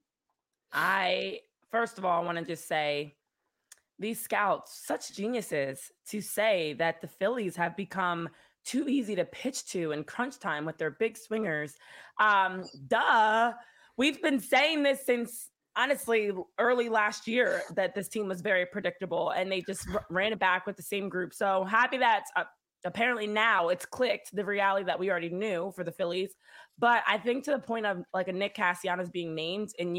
First of all, I want to just say, these scouts, such geniuses to say that the Phillies have become too easy to pitch to in crunch time with their big swingers. We've been saying this since, honestly, early last year that this team was very predictable and they just ran it back with the same group. So happy that apparently now it's clicked, the reality that we already knew for the Phillies. But I think to the point of like a Nick Castellanos being named and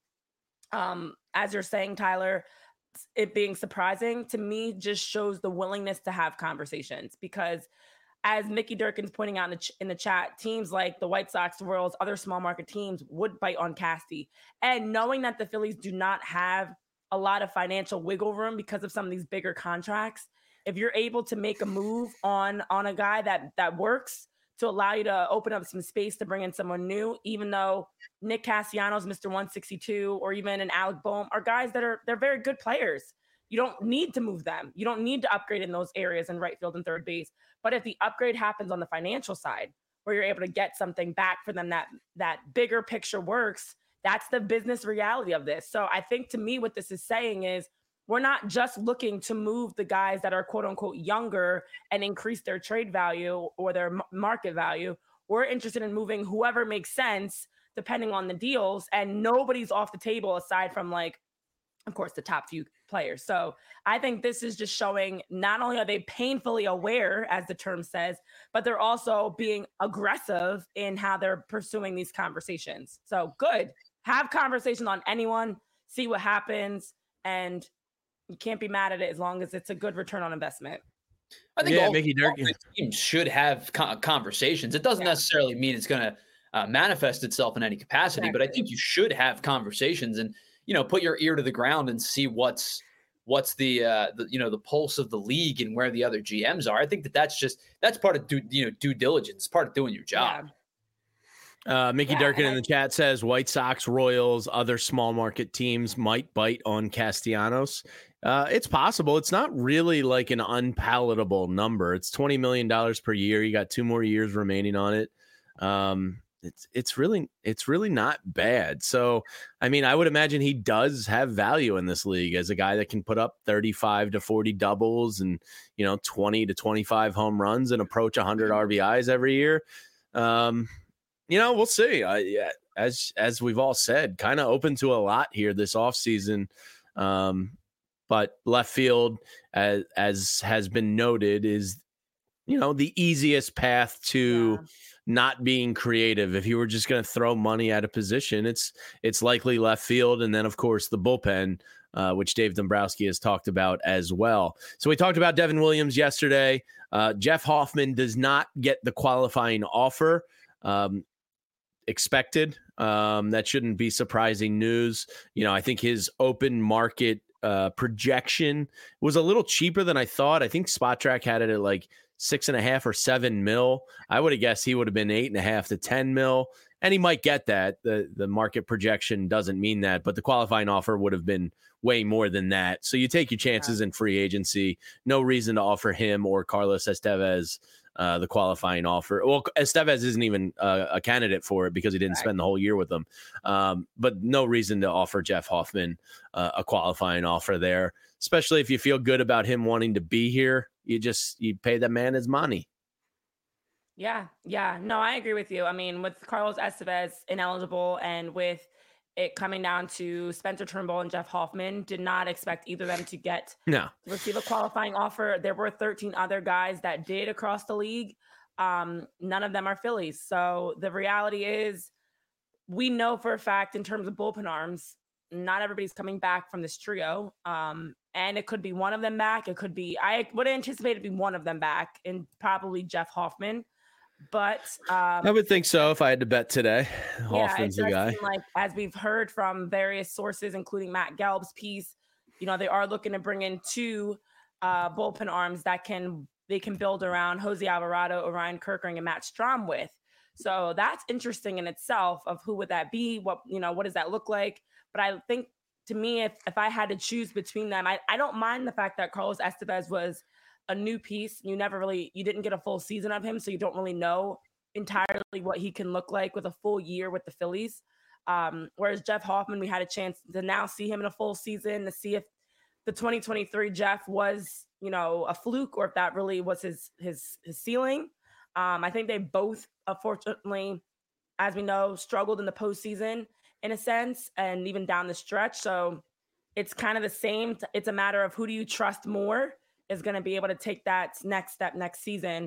as you're saying, Tyler, it being surprising to me just shows the willingness to have conversations, because as Mickey Durkin's pointing out in the chat, teams like the White Sox, the Royals, other small market teams would bite on Casty. And knowing that the Phillies do not have a lot of financial wiggle room because of some of these bigger contracts, if you're able to make a move on a guy that works to allow you to open up some space to bring in someone new, even though Nick Castellanos, Mr. 162, or even an Alec Boehm are guys that they're very good players. You don't need to move them. You don't need to upgrade in those areas in right field and third base. But if the upgrade happens on the financial side, where you're able to get something back for them that bigger picture works, that's the business reality of this. So I think, to me, what this is saying is we're not just looking to move the guys that are quote unquote younger and increase their trade value or their market value. We're interested in moving whoever makes sense depending on the deals, and nobody's off the table aside from, like, of course, the top few players. So I think this is just showing not only are they painfully aware, as the term says, but they're also being aggressive in how they're pursuing these conversations. So good. Have conversations on anyone, see what happens, and you can't be mad at it as long as it's a good return on investment. I think all Mickey Durkin teams should have conversations. It doesn't necessarily mean it's going to manifest itself in any capacity, but I think you should have conversations and, put your ear to the ground and see what's the pulse of the league and where the other GMs are. I think that's part of due diligence, part of doing your job. Mickey Durkin in the chat says White Sox, Royals, other small market teams might bite on Castellanos. It's possible. It's not really like an unpalatable number. It's $20 million per year. You got 2 more years remaining on it. It's really not bad. So, I mean, I would imagine he does have value in this league as a guy that can put up 35 to 40 doubles and, 20 to 25 home runs and approach 100 RBIs every year. We'll see. As we've all said, kind of open to a lot here this offseason. But left field, as has been noted, is, the easiest path to not being creative. If you were just going to throw money at a position, it's likely left field. And then, of course, the bullpen, which Dave Dombrowski has talked about as well. So we talked about Devin Williams yesterday. Jeff Hoffman does not get the qualifying offer expected. That shouldn't be surprising news. I think his open market projection was a little cheaper than I thought. I think SpotTrack had it at like 6.5 or 7 mil. I would have guessed he would have been 8.5 to 10 mil, and he might get that. The market projection doesn't mean that, but the qualifying offer would have been way more than that. So you take your chances in free agency. No reason to offer him or Carlos Estevez the qualifying offer. Well, Estevez isn't even a candidate for it because he didn't spend the whole year with them. But no reason to offer Jeff Hoffman a qualifying offer there, especially if you feel good about him wanting to be here. You pay that man his money. Yeah. No, I agree with you. I mean, with Carlos Estevez ineligible and with it coming down to Spencer Turnbull and Jeff Hoffman, did not expect either of them to receive a qualifying offer. There were 13 other guys that did across the league. None of them are Phillies. So the reality is, we know for a fact in terms of bullpen arms, not everybody's coming back from this trio. And it could be one of them back. It could be, I would anticipate it to be one of them back, and probably Jeff Hoffman. But I would think so if I had to bet today. Hoffman's the guy. Like, as we've heard from various sources, including Matt Gelb's piece, they are looking to bring in 2 bullpen arms that they can build around Jose Alvarado, Orion Kirkering, and Matt Strahm with. So that's interesting in itself. Of who would that be? What does that look like? But I think, to me, if I had to choose between them, I don't mind the fact that Carlos Estevez was a new piece. You didn't get a full season of him, so you don't really know entirely what he can look like with a full year with the Phillies. Whereas Jeff Hoffman, we had a chance to now see him in a full season, to see if the 2023 Jeff was, a fluke, or if that really was his ceiling. I think they both, unfortunately, as we know, struggled in the postseason in a sense, and even down the stretch. So it's kind of the same. It's a matter of who do you trust more is going to be able to take that next step next season.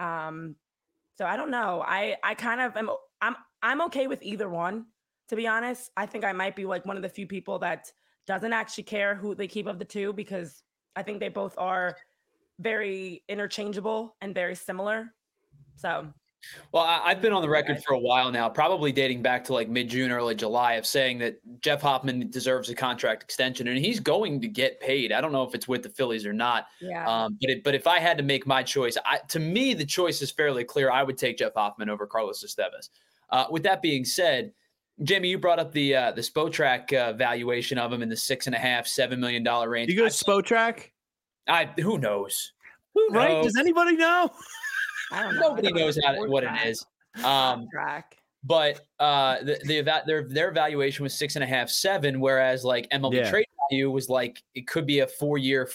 So I don't know. I kind of I'm okay with either one, to be honest. I think I might be like one of the few people that doesn't actually care who they keep of the 2, because I think they both are very interchangeable and very similar. So Well, I've been on the record for a while now, probably dating back to like mid-June, early July, of saying that Jeff Hoffman deserves a contract extension, and he's going to get paid. I don't know if it's with the Phillies or not. Yeah. But if I had to make my choice, to me, the choice is fairly clear. I would take Jeff Hoffman over Carlos Estevez. With that being said, Jamie, you brought up the Spotrac valuation of him in the $6.5–7 million range. You go Spotrac? Who knows? Who knows? Right? Does anybody know? I don't know. Nobody knows what it is. Track. But their evaluation was 6.5, 7, whereas like MLB trade value was like it could be a 4-year,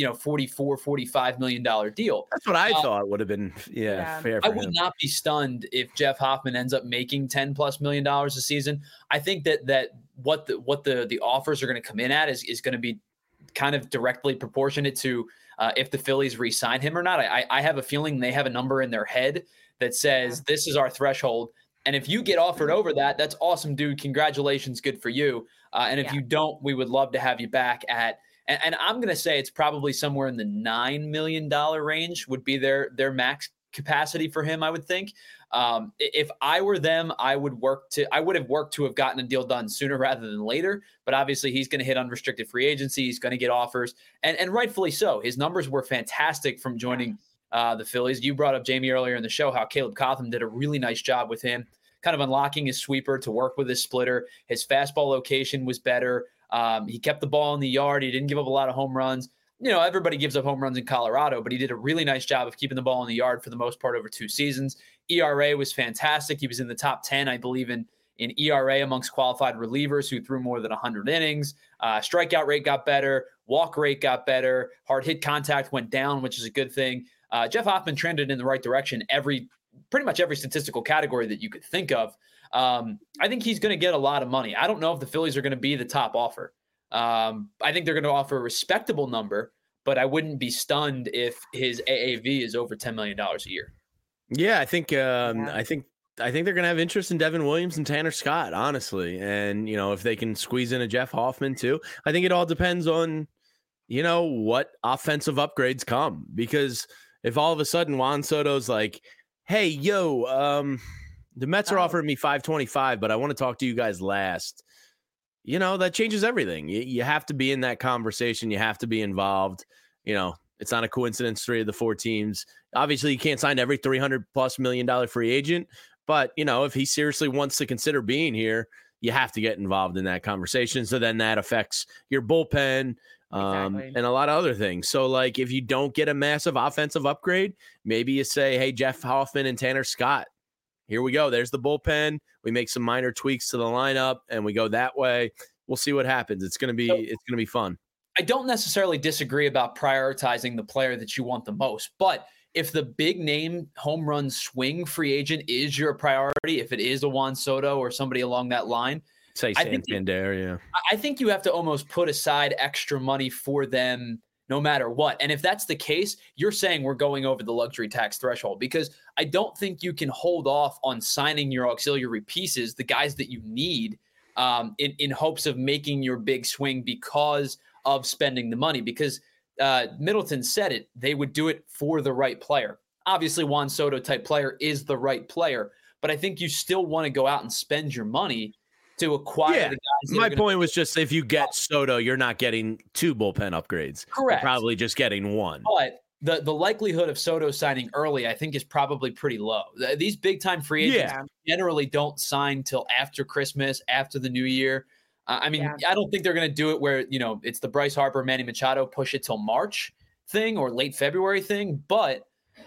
$44–45 million deal. That's what I thought would have been fair. I would not be stunned if Jeff Hoffman ends up making $10+ million a season. I think that what the offers are going to come in at is going to be kind of directly proportionate to if the Phillies re-sign him or not. I have a feeling they have a number in their head that says this is our threshold. And if you get offered over that, that's awesome, dude. Congratulations. Good for you. And if you don't, we would love to have you back at, and I'm going to say it's probably somewhere in the $9 million range would be their max capacity for him, I would think. If I were them, I would have worked to have gotten a deal done sooner rather than later. But obviously he's going to hit unrestricted free agency. He's going to get offers, and rightfully so. His numbers were fantastic from joining the Phillies. You brought up, Jamie, earlier in the show how Caleb Cotham did a really nice job with him, kind of unlocking his sweeper to work with his splitter. His fastball location was better. He kept the ball in the yard. He didn't give up a lot of home runs. You know, everybody gives up home runs in Colorado, but he did a really nice job of keeping the ball in the yard for the most part over 2 seasons. ERA was fantastic. He was in the top 10, I believe, in ERA amongst qualified relievers who threw more than 100 innings. Strikeout rate got better. Walk rate got better. Hard hit contact went down, which is a good thing. Jeff Hoffman trended in the right direction pretty much every statistical category that you could think of. I think he's going to get a lot of money. I don't know if the Phillies are going to be the top offer. I think they're going to offer a respectable number, but I wouldn't be stunned if his AAV is over $10 million a year. Yeah, I think they're going to have interest in Devin Williams and Tanner Scott, honestly. And, if they can squeeze in a Jeff Hoffman too, I think it all depends on, what offensive upgrades come. Because if all of a sudden Juan Soto's like, hey, the Mets are offering me $525, but I want to talk to you guys last. That changes everything. You have to be in that conversation. You have to be involved. It's not a coincidence 3 of the 4 teams. Obviously, you can't sign every $300+ million free agent. But, if he seriously wants to consider being here, you have to get involved in that conversation. So then that affects your bullpen and a lot of other things. So, like, if you don't get a massive offensive upgrade, maybe you say, hey, Jeff Hoffman and Tanner Scott, here we go. There's the bullpen. We make some minor tweaks to the lineup, and we go that way. We'll see what happens. It's going to be fun. I don't necessarily disagree about prioritizing the player that you want the most, but if the big name home run swing free agent is your priority, if it is a Juan Soto or somebody along that line, say Santander, I think you have to almost put aside extra money for them no matter what. And if that's the case, you're saying we're going over the luxury tax threshold, because I don't think you can hold off on signing your auxiliary pieces, the guys that you need, in hopes of making your big swing because of spending the money. Because Middleton said it, they would do it for the right player. Obviously, Juan Soto type player is the right player, but I think you still want to go out and spend your money to acquire the guys. My point was just, if you get Soto, you're not getting 2 bullpen upgrades. Correct. You're probably just getting 1. But the likelihood of Soto signing early, I think, is probably pretty low. These big time free agents generally don't sign till after Christmas, after the new year. I don't think they're going to do it where, it's the Bryce Harper, Manny Machado push it till March thing or late February thing. But,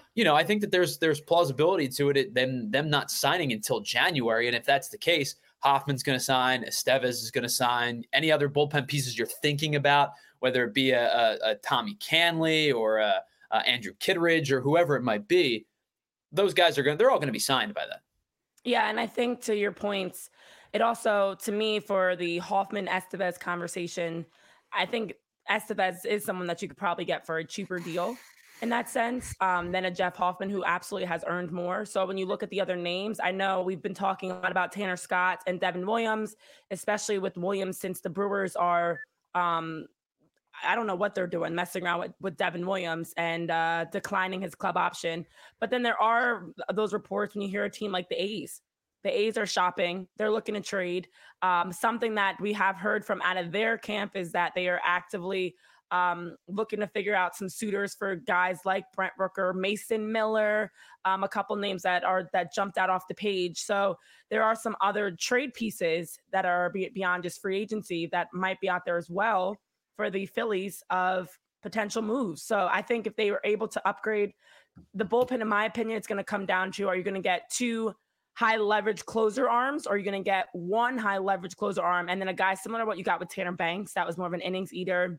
I think that there's plausibility to it, them not signing until January. And if that's the case, Hoffman's going to sign, Estevez is going to sign, any other bullpen pieces you're thinking about, whether it be a Tommy Canley or Andrew Kittredge or whoever it might be, those guys they're all going to be signed by then. Yeah, and I think to your points, it also, to me, for the Hoffman-Estevez conversation, I think Estevez is someone that you could probably get for a cheaper deal in that sense than a Jeff Hoffman, who absolutely has earned more. So when you look at the other names, I know we've been talking a lot about Tanner Scott and Devin Williams, especially with Williams, since the Brewers are I don't know what they're doing, messing around with Devin Williams and declining his club option. But then there are those reports when you hear a team like the A's. The A's are shopping. They're looking to trade. Something that we have heard from out of their camp is that they are actively looking to figure out some suitors for guys like Brent Rooker, Mason Miller, a couple names that jumped out off the page. So there are some other trade pieces that are beyond just free agency that might be out there as well for the Phillies of potential moves. So I think if they were able to upgrade the bullpen, in my opinion, it's going to come down to, are you going to get 2 high leverage closer arms, or are you going to get 1 high leverage closer arm and then a guy similar to what you got with Tanner Banks that was more of an innings eater,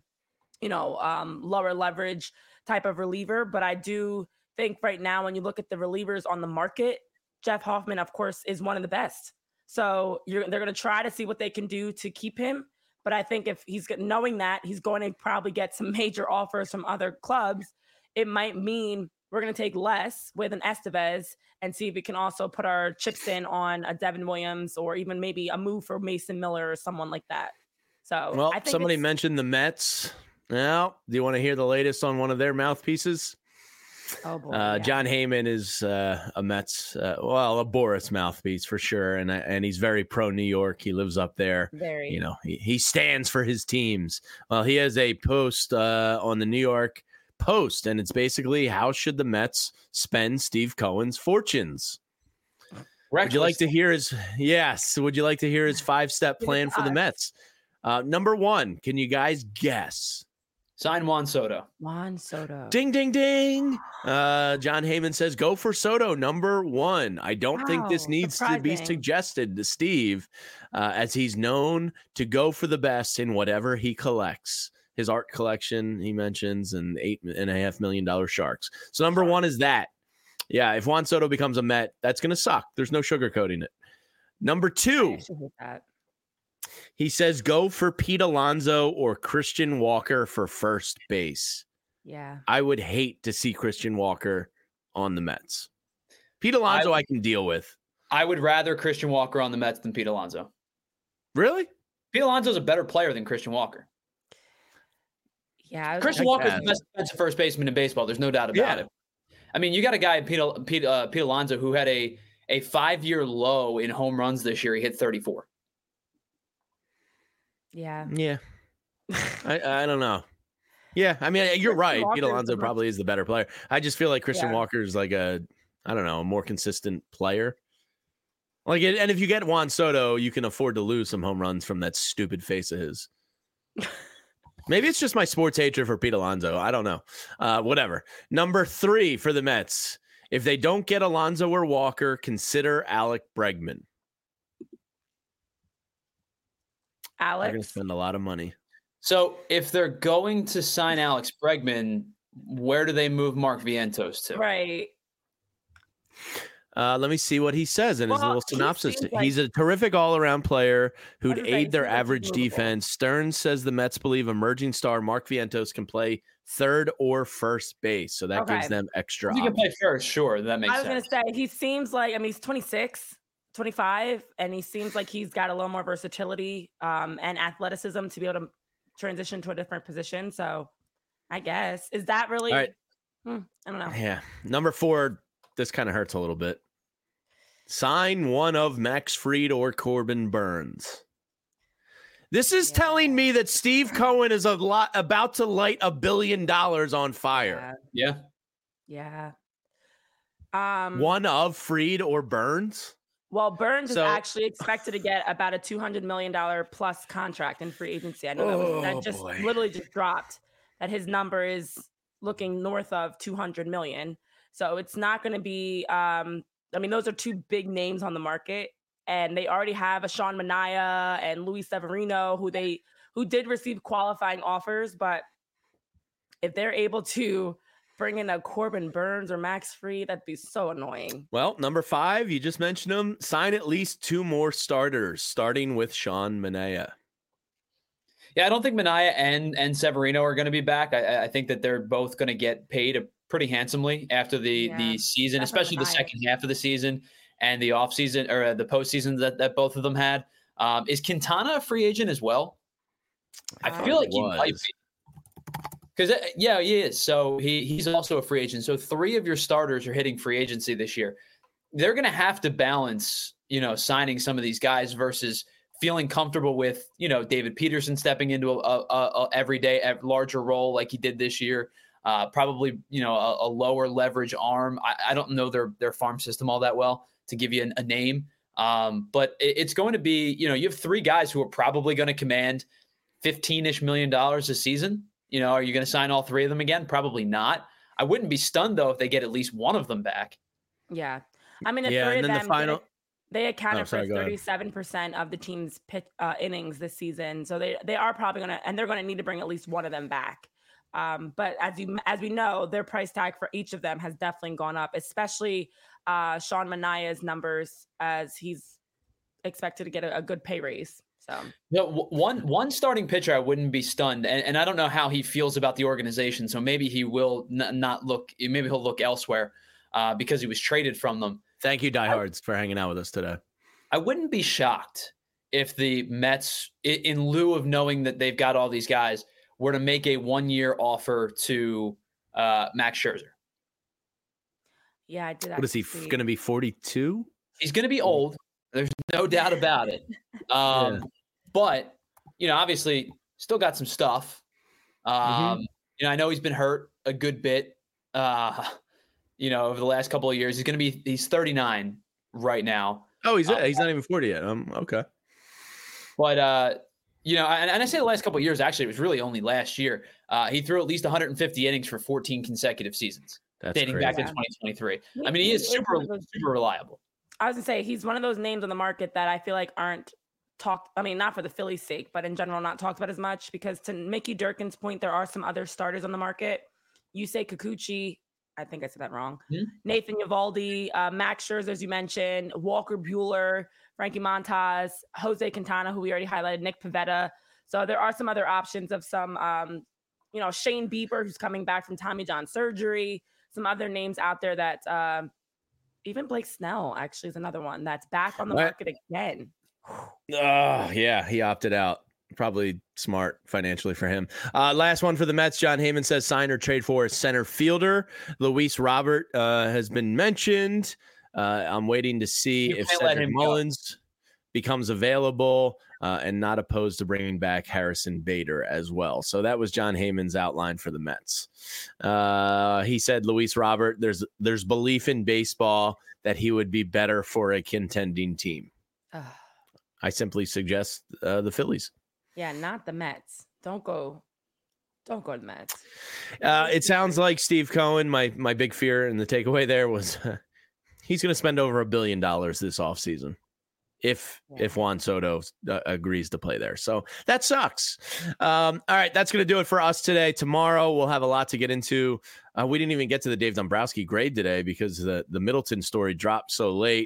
lower leverage type of reliever. But I do think right now, when you look at the relievers on the market, Jeff Hoffman, of course, is one of the best. So they're going to try to see what they can do to keep him. But I think if he's knowing that he's going to probably get some major offers from other clubs, it might mean we're going to take less with an Estevez and see if we can also put our chips in on a Devin Williams, or even maybe a move for Mason Miller or someone like that. So, well, I think somebody mentioned the Mets. Now, do you want to hear the latest on one of their mouthpieces? Oh boy, yeah. John Heyman is a Mets, a Boris mouthpiece for sure, and he's very pro New York. He lives up there. Very. He stands for his teams. Well, he has a post on the New York Post, and it's basically, how should the Mets spend Steve Cohen's fortunes? Would you like to hear his? Yes. Would you like to hear his 5-step plan for the Mets? Number 1, can you guys guess? Sign Juan Soto. Juan Soto. Ding, ding, ding. John Heyman says, go for Soto, number 1. I don't think this needs to be suggested to Steve, as he's known to go for the best in whatever he collects. His art collection, he mentions, and $8.5 million sharks. So number 1 is that. Yeah, if Juan Soto becomes a Met, that's going to suck. There's no sugarcoating it. Number 2. He says, go for Pete Alonso or Christian Walker for first base. Yeah. I would hate to see Christian Walker on the Mets. Pete Alonso I can deal with. I would rather Christian Walker on the Mets than Pete Alonso. Really? Pete Alonso is a better player than Christian Walker. Yeah. Christian Walker is the best defensive first baseman in baseball. There's no doubt about it. I mean, you got a guy, Pete Alonso, who had a 5-year low in home runs this year. He hit 34. Yeah. Yeah. I don't know. Yeah. I mean, you're right. Pete Alonso probably is the better player. I just feel like Christian Walker is like a more consistent player. Like, and if you get Juan Soto, you can afford to lose some home runs from that stupid face of his. Maybe it's just my sports hatred for Pete Alonso. I don't know. Whatever. Number 3 for the Mets. If they don't get Alonso or Walker, consider Alec Bregman. Alex? They're going to spend a lot of money. So if they're going to sign Alex Bregman, where do they move Mark Vientos to? Right. Let me see what he says in his little synopsis. He's a terrific all-around player who'd aid their average defense. Stearns says the Mets believe emerging star Mark Vientos can play third or first base, so that gives them extra. He can play first, sure. That makes sense. I was going to say, he seems like, he's 26, 25, and he seems like he's got a little more versatility and athleticism to be able to transition to a different position. So I guess, is that really? All right. I don't know. Yeah. Number 4. This kind of hurts a little bit. Sign one of Max Fried or Corbin Burns. This is telling me that Steve Cohen is about to light $1 billion on fire. Yeah. One of Fried or Burns? Well, Burns is actually expected to get about a $200 million plus contract in free agency. I know that just literally just dropped, that his number is looking north of 200 million. So it's not going to be, those are 2 big names on the market, and they already have a Sean Manaea and Luis Severino who did receive qualifying offers. But if they're able to bring in a Corbin Burns or Max Fried, that'd be so annoying. Well, number 5, you just mentioned them. Sign at least 2 more starters, starting with Sean Manaea. Yeah, I don't think Manaea and Severino are going to be back. I think that they're both going to get paid pretty handsomely after the season, especially the second half of the season and the offseason or the postseason that both of them had. Is Quintana a free agent as well? I feel like he might be. Because yeah, he is. So he's also a free agent. So 3 of your starters are hitting free agency this year. They're going to have to balance, signing some of these guys versus feeling comfortable with, David Peterson stepping into a everyday larger role like he did this year. Probably, a lower leverage arm. I don't know their farm system all that well to give you a name. But it's going to be, you have 3 guys who are probably going to command $15-ish million a season. Are you going to sign all 3 of them again? Probably not. I wouldn't be stunned though if they get at least one of them back. Yeah. I mean, the 3 of them, they accounted for 37% of the team's innings this season. So they are probably they're going to need to bring at least one of them back. But as we know, their price tag for each of them has definitely gone up, especially Sean Manaea's numbers, as he's expected to get a good pay raise. So one starting pitcher, I wouldn't be stunned, and I don't know how he feels about the organization. So maybe he will not look. Maybe he'll look elsewhere because he was traded from them. Thank you, diehards, for hanging out with us today. I wouldn't be shocked if the Mets, in lieu of knowing that they've got all these guys, were to make a 1-year offer to Max Scherzer. Yeah, I did. What is he going to be? 42? He's going to be old. There's no doubt about it. But, obviously still got some stuff. I know he's been hurt a good bit, over the last couple of years. He's 39 right now. Oh, he's not even 40 yet. Okay. But, and I say the last couple of years, actually, it was really only last year. He threw at least 150 innings for 14 consecutive seasons. That's dating crazy. back to 2023. I mean, he is super reliable. I was going to say, he's one of those names on the market that I feel like aren't talked. I mean, not for the Phillies' sake, but in general, not talked about as much, because to Mickey Durkin's point, there are some other starters on the market. Yusei Kikuchi, I think I said that wrong. Mm-hmm. Nathan Eovaldi, Max Scherzer, as you mentioned, Walker Buehler, Frankie Montas, Jose Quintana, who we already highlighted, Nick Pivetta. So there are some other options of some, Shane Bieber, who's coming back from Tommy John surgery. Some other names out there that even Blake Snell actually is another one that's back on the market again. Yeah, he opted out. Probably smart financially for him. Last one for the Mets. John Heyman says sign or trade for a center fielder. Luis Robert has been mentioned. I'm waiting to see if Cedric Mullins becomes available and not opposed to bringing back Harrison Bader as well. So that was John Heyman's outline for the Mets. He said, Luis Robert, there's belief in baseball that he would be better for a contending team. I simply suggest the Phillies. Yeah, not the Mets. Don't go to the Mets. It sounds like Steve Cohen, my big fear and the takeaway there was he's going to spend over $1 billion this offseason if Juan Soto agrees to play there. So that sucks. All right, that's going to do it for us today. Tomorrow we'll have a lot to get into. We didn't even get to the Dave Dombrowski grade today because the Middleton story dropped so late.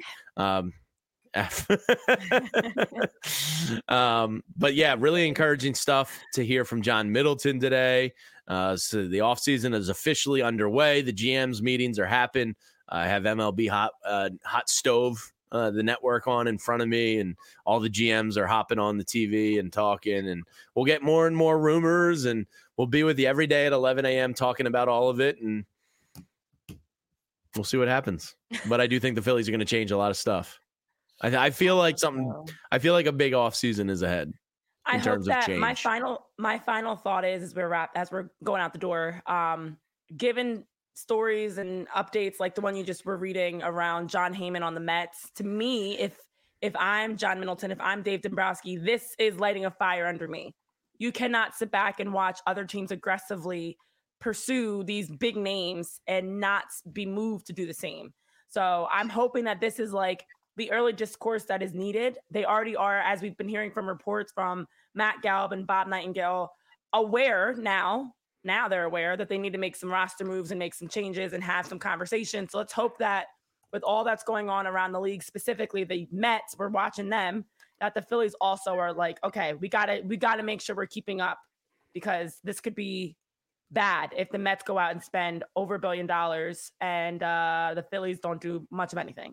But yeah, really encouraging stuff to hear from John Middleton today. So the offseason is officially underway. The GMs meetings are happening. I have MLB Hot Stove, the network, on in front of me, and all the GMs are hopping on the TV and talking, and we'll get more and more rumors, and we'll be with you every day at 11 a.m. talking about all of it, and we'll see what happens. But I do think the Phillies are going to change a lot of stuff. I feel like a big off season is ahead. I hope that my final thought is as we're going out the door, given stories and updates like the one you just were reading around John Heyman on the Mets, to me, if I'm John Middleton, if I'm Dave Dombrowski, this is lighting a fire under me. You cannot sit back and watch other teams aggressively pursue these big names and not be moved to do the same. So I'm hoping that this is like the early discourse that is needed. They already are, as we've been hearing from reports from Matt Galb and Bob Nightingale, aware now they're aware that they need to make some roster moves and make some changes and have some conversations. So let's hope that with all that's going on around the league, specifically the Mets, we're watching them, that the Phillies also are like, okay, we gotta make sure we're keeping up, because this could be bad if the Mets go out and spend over $1 billion and the Phillies don't do much of anything.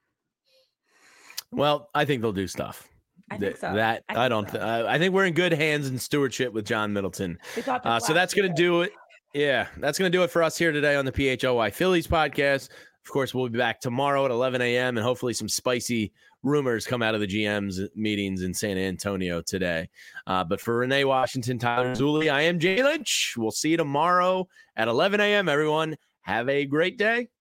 Well, I think they'll do stuff. I think so. I think we're in good hands and stewardship with John Middleton. So that's going to do it. Yeah, that's going to do it for us here today on the PHLY Phillies podcast. Of course, we'll be back tomorrow at 11 a.m. and hopefully some spicy rumors come out of the GM's meetings in San Antonio today. But for Renee Washington, Tyler Zulli, I am Jay Lynch. We'll see you tomorrow at 11 a.m., everyone. Have a great day.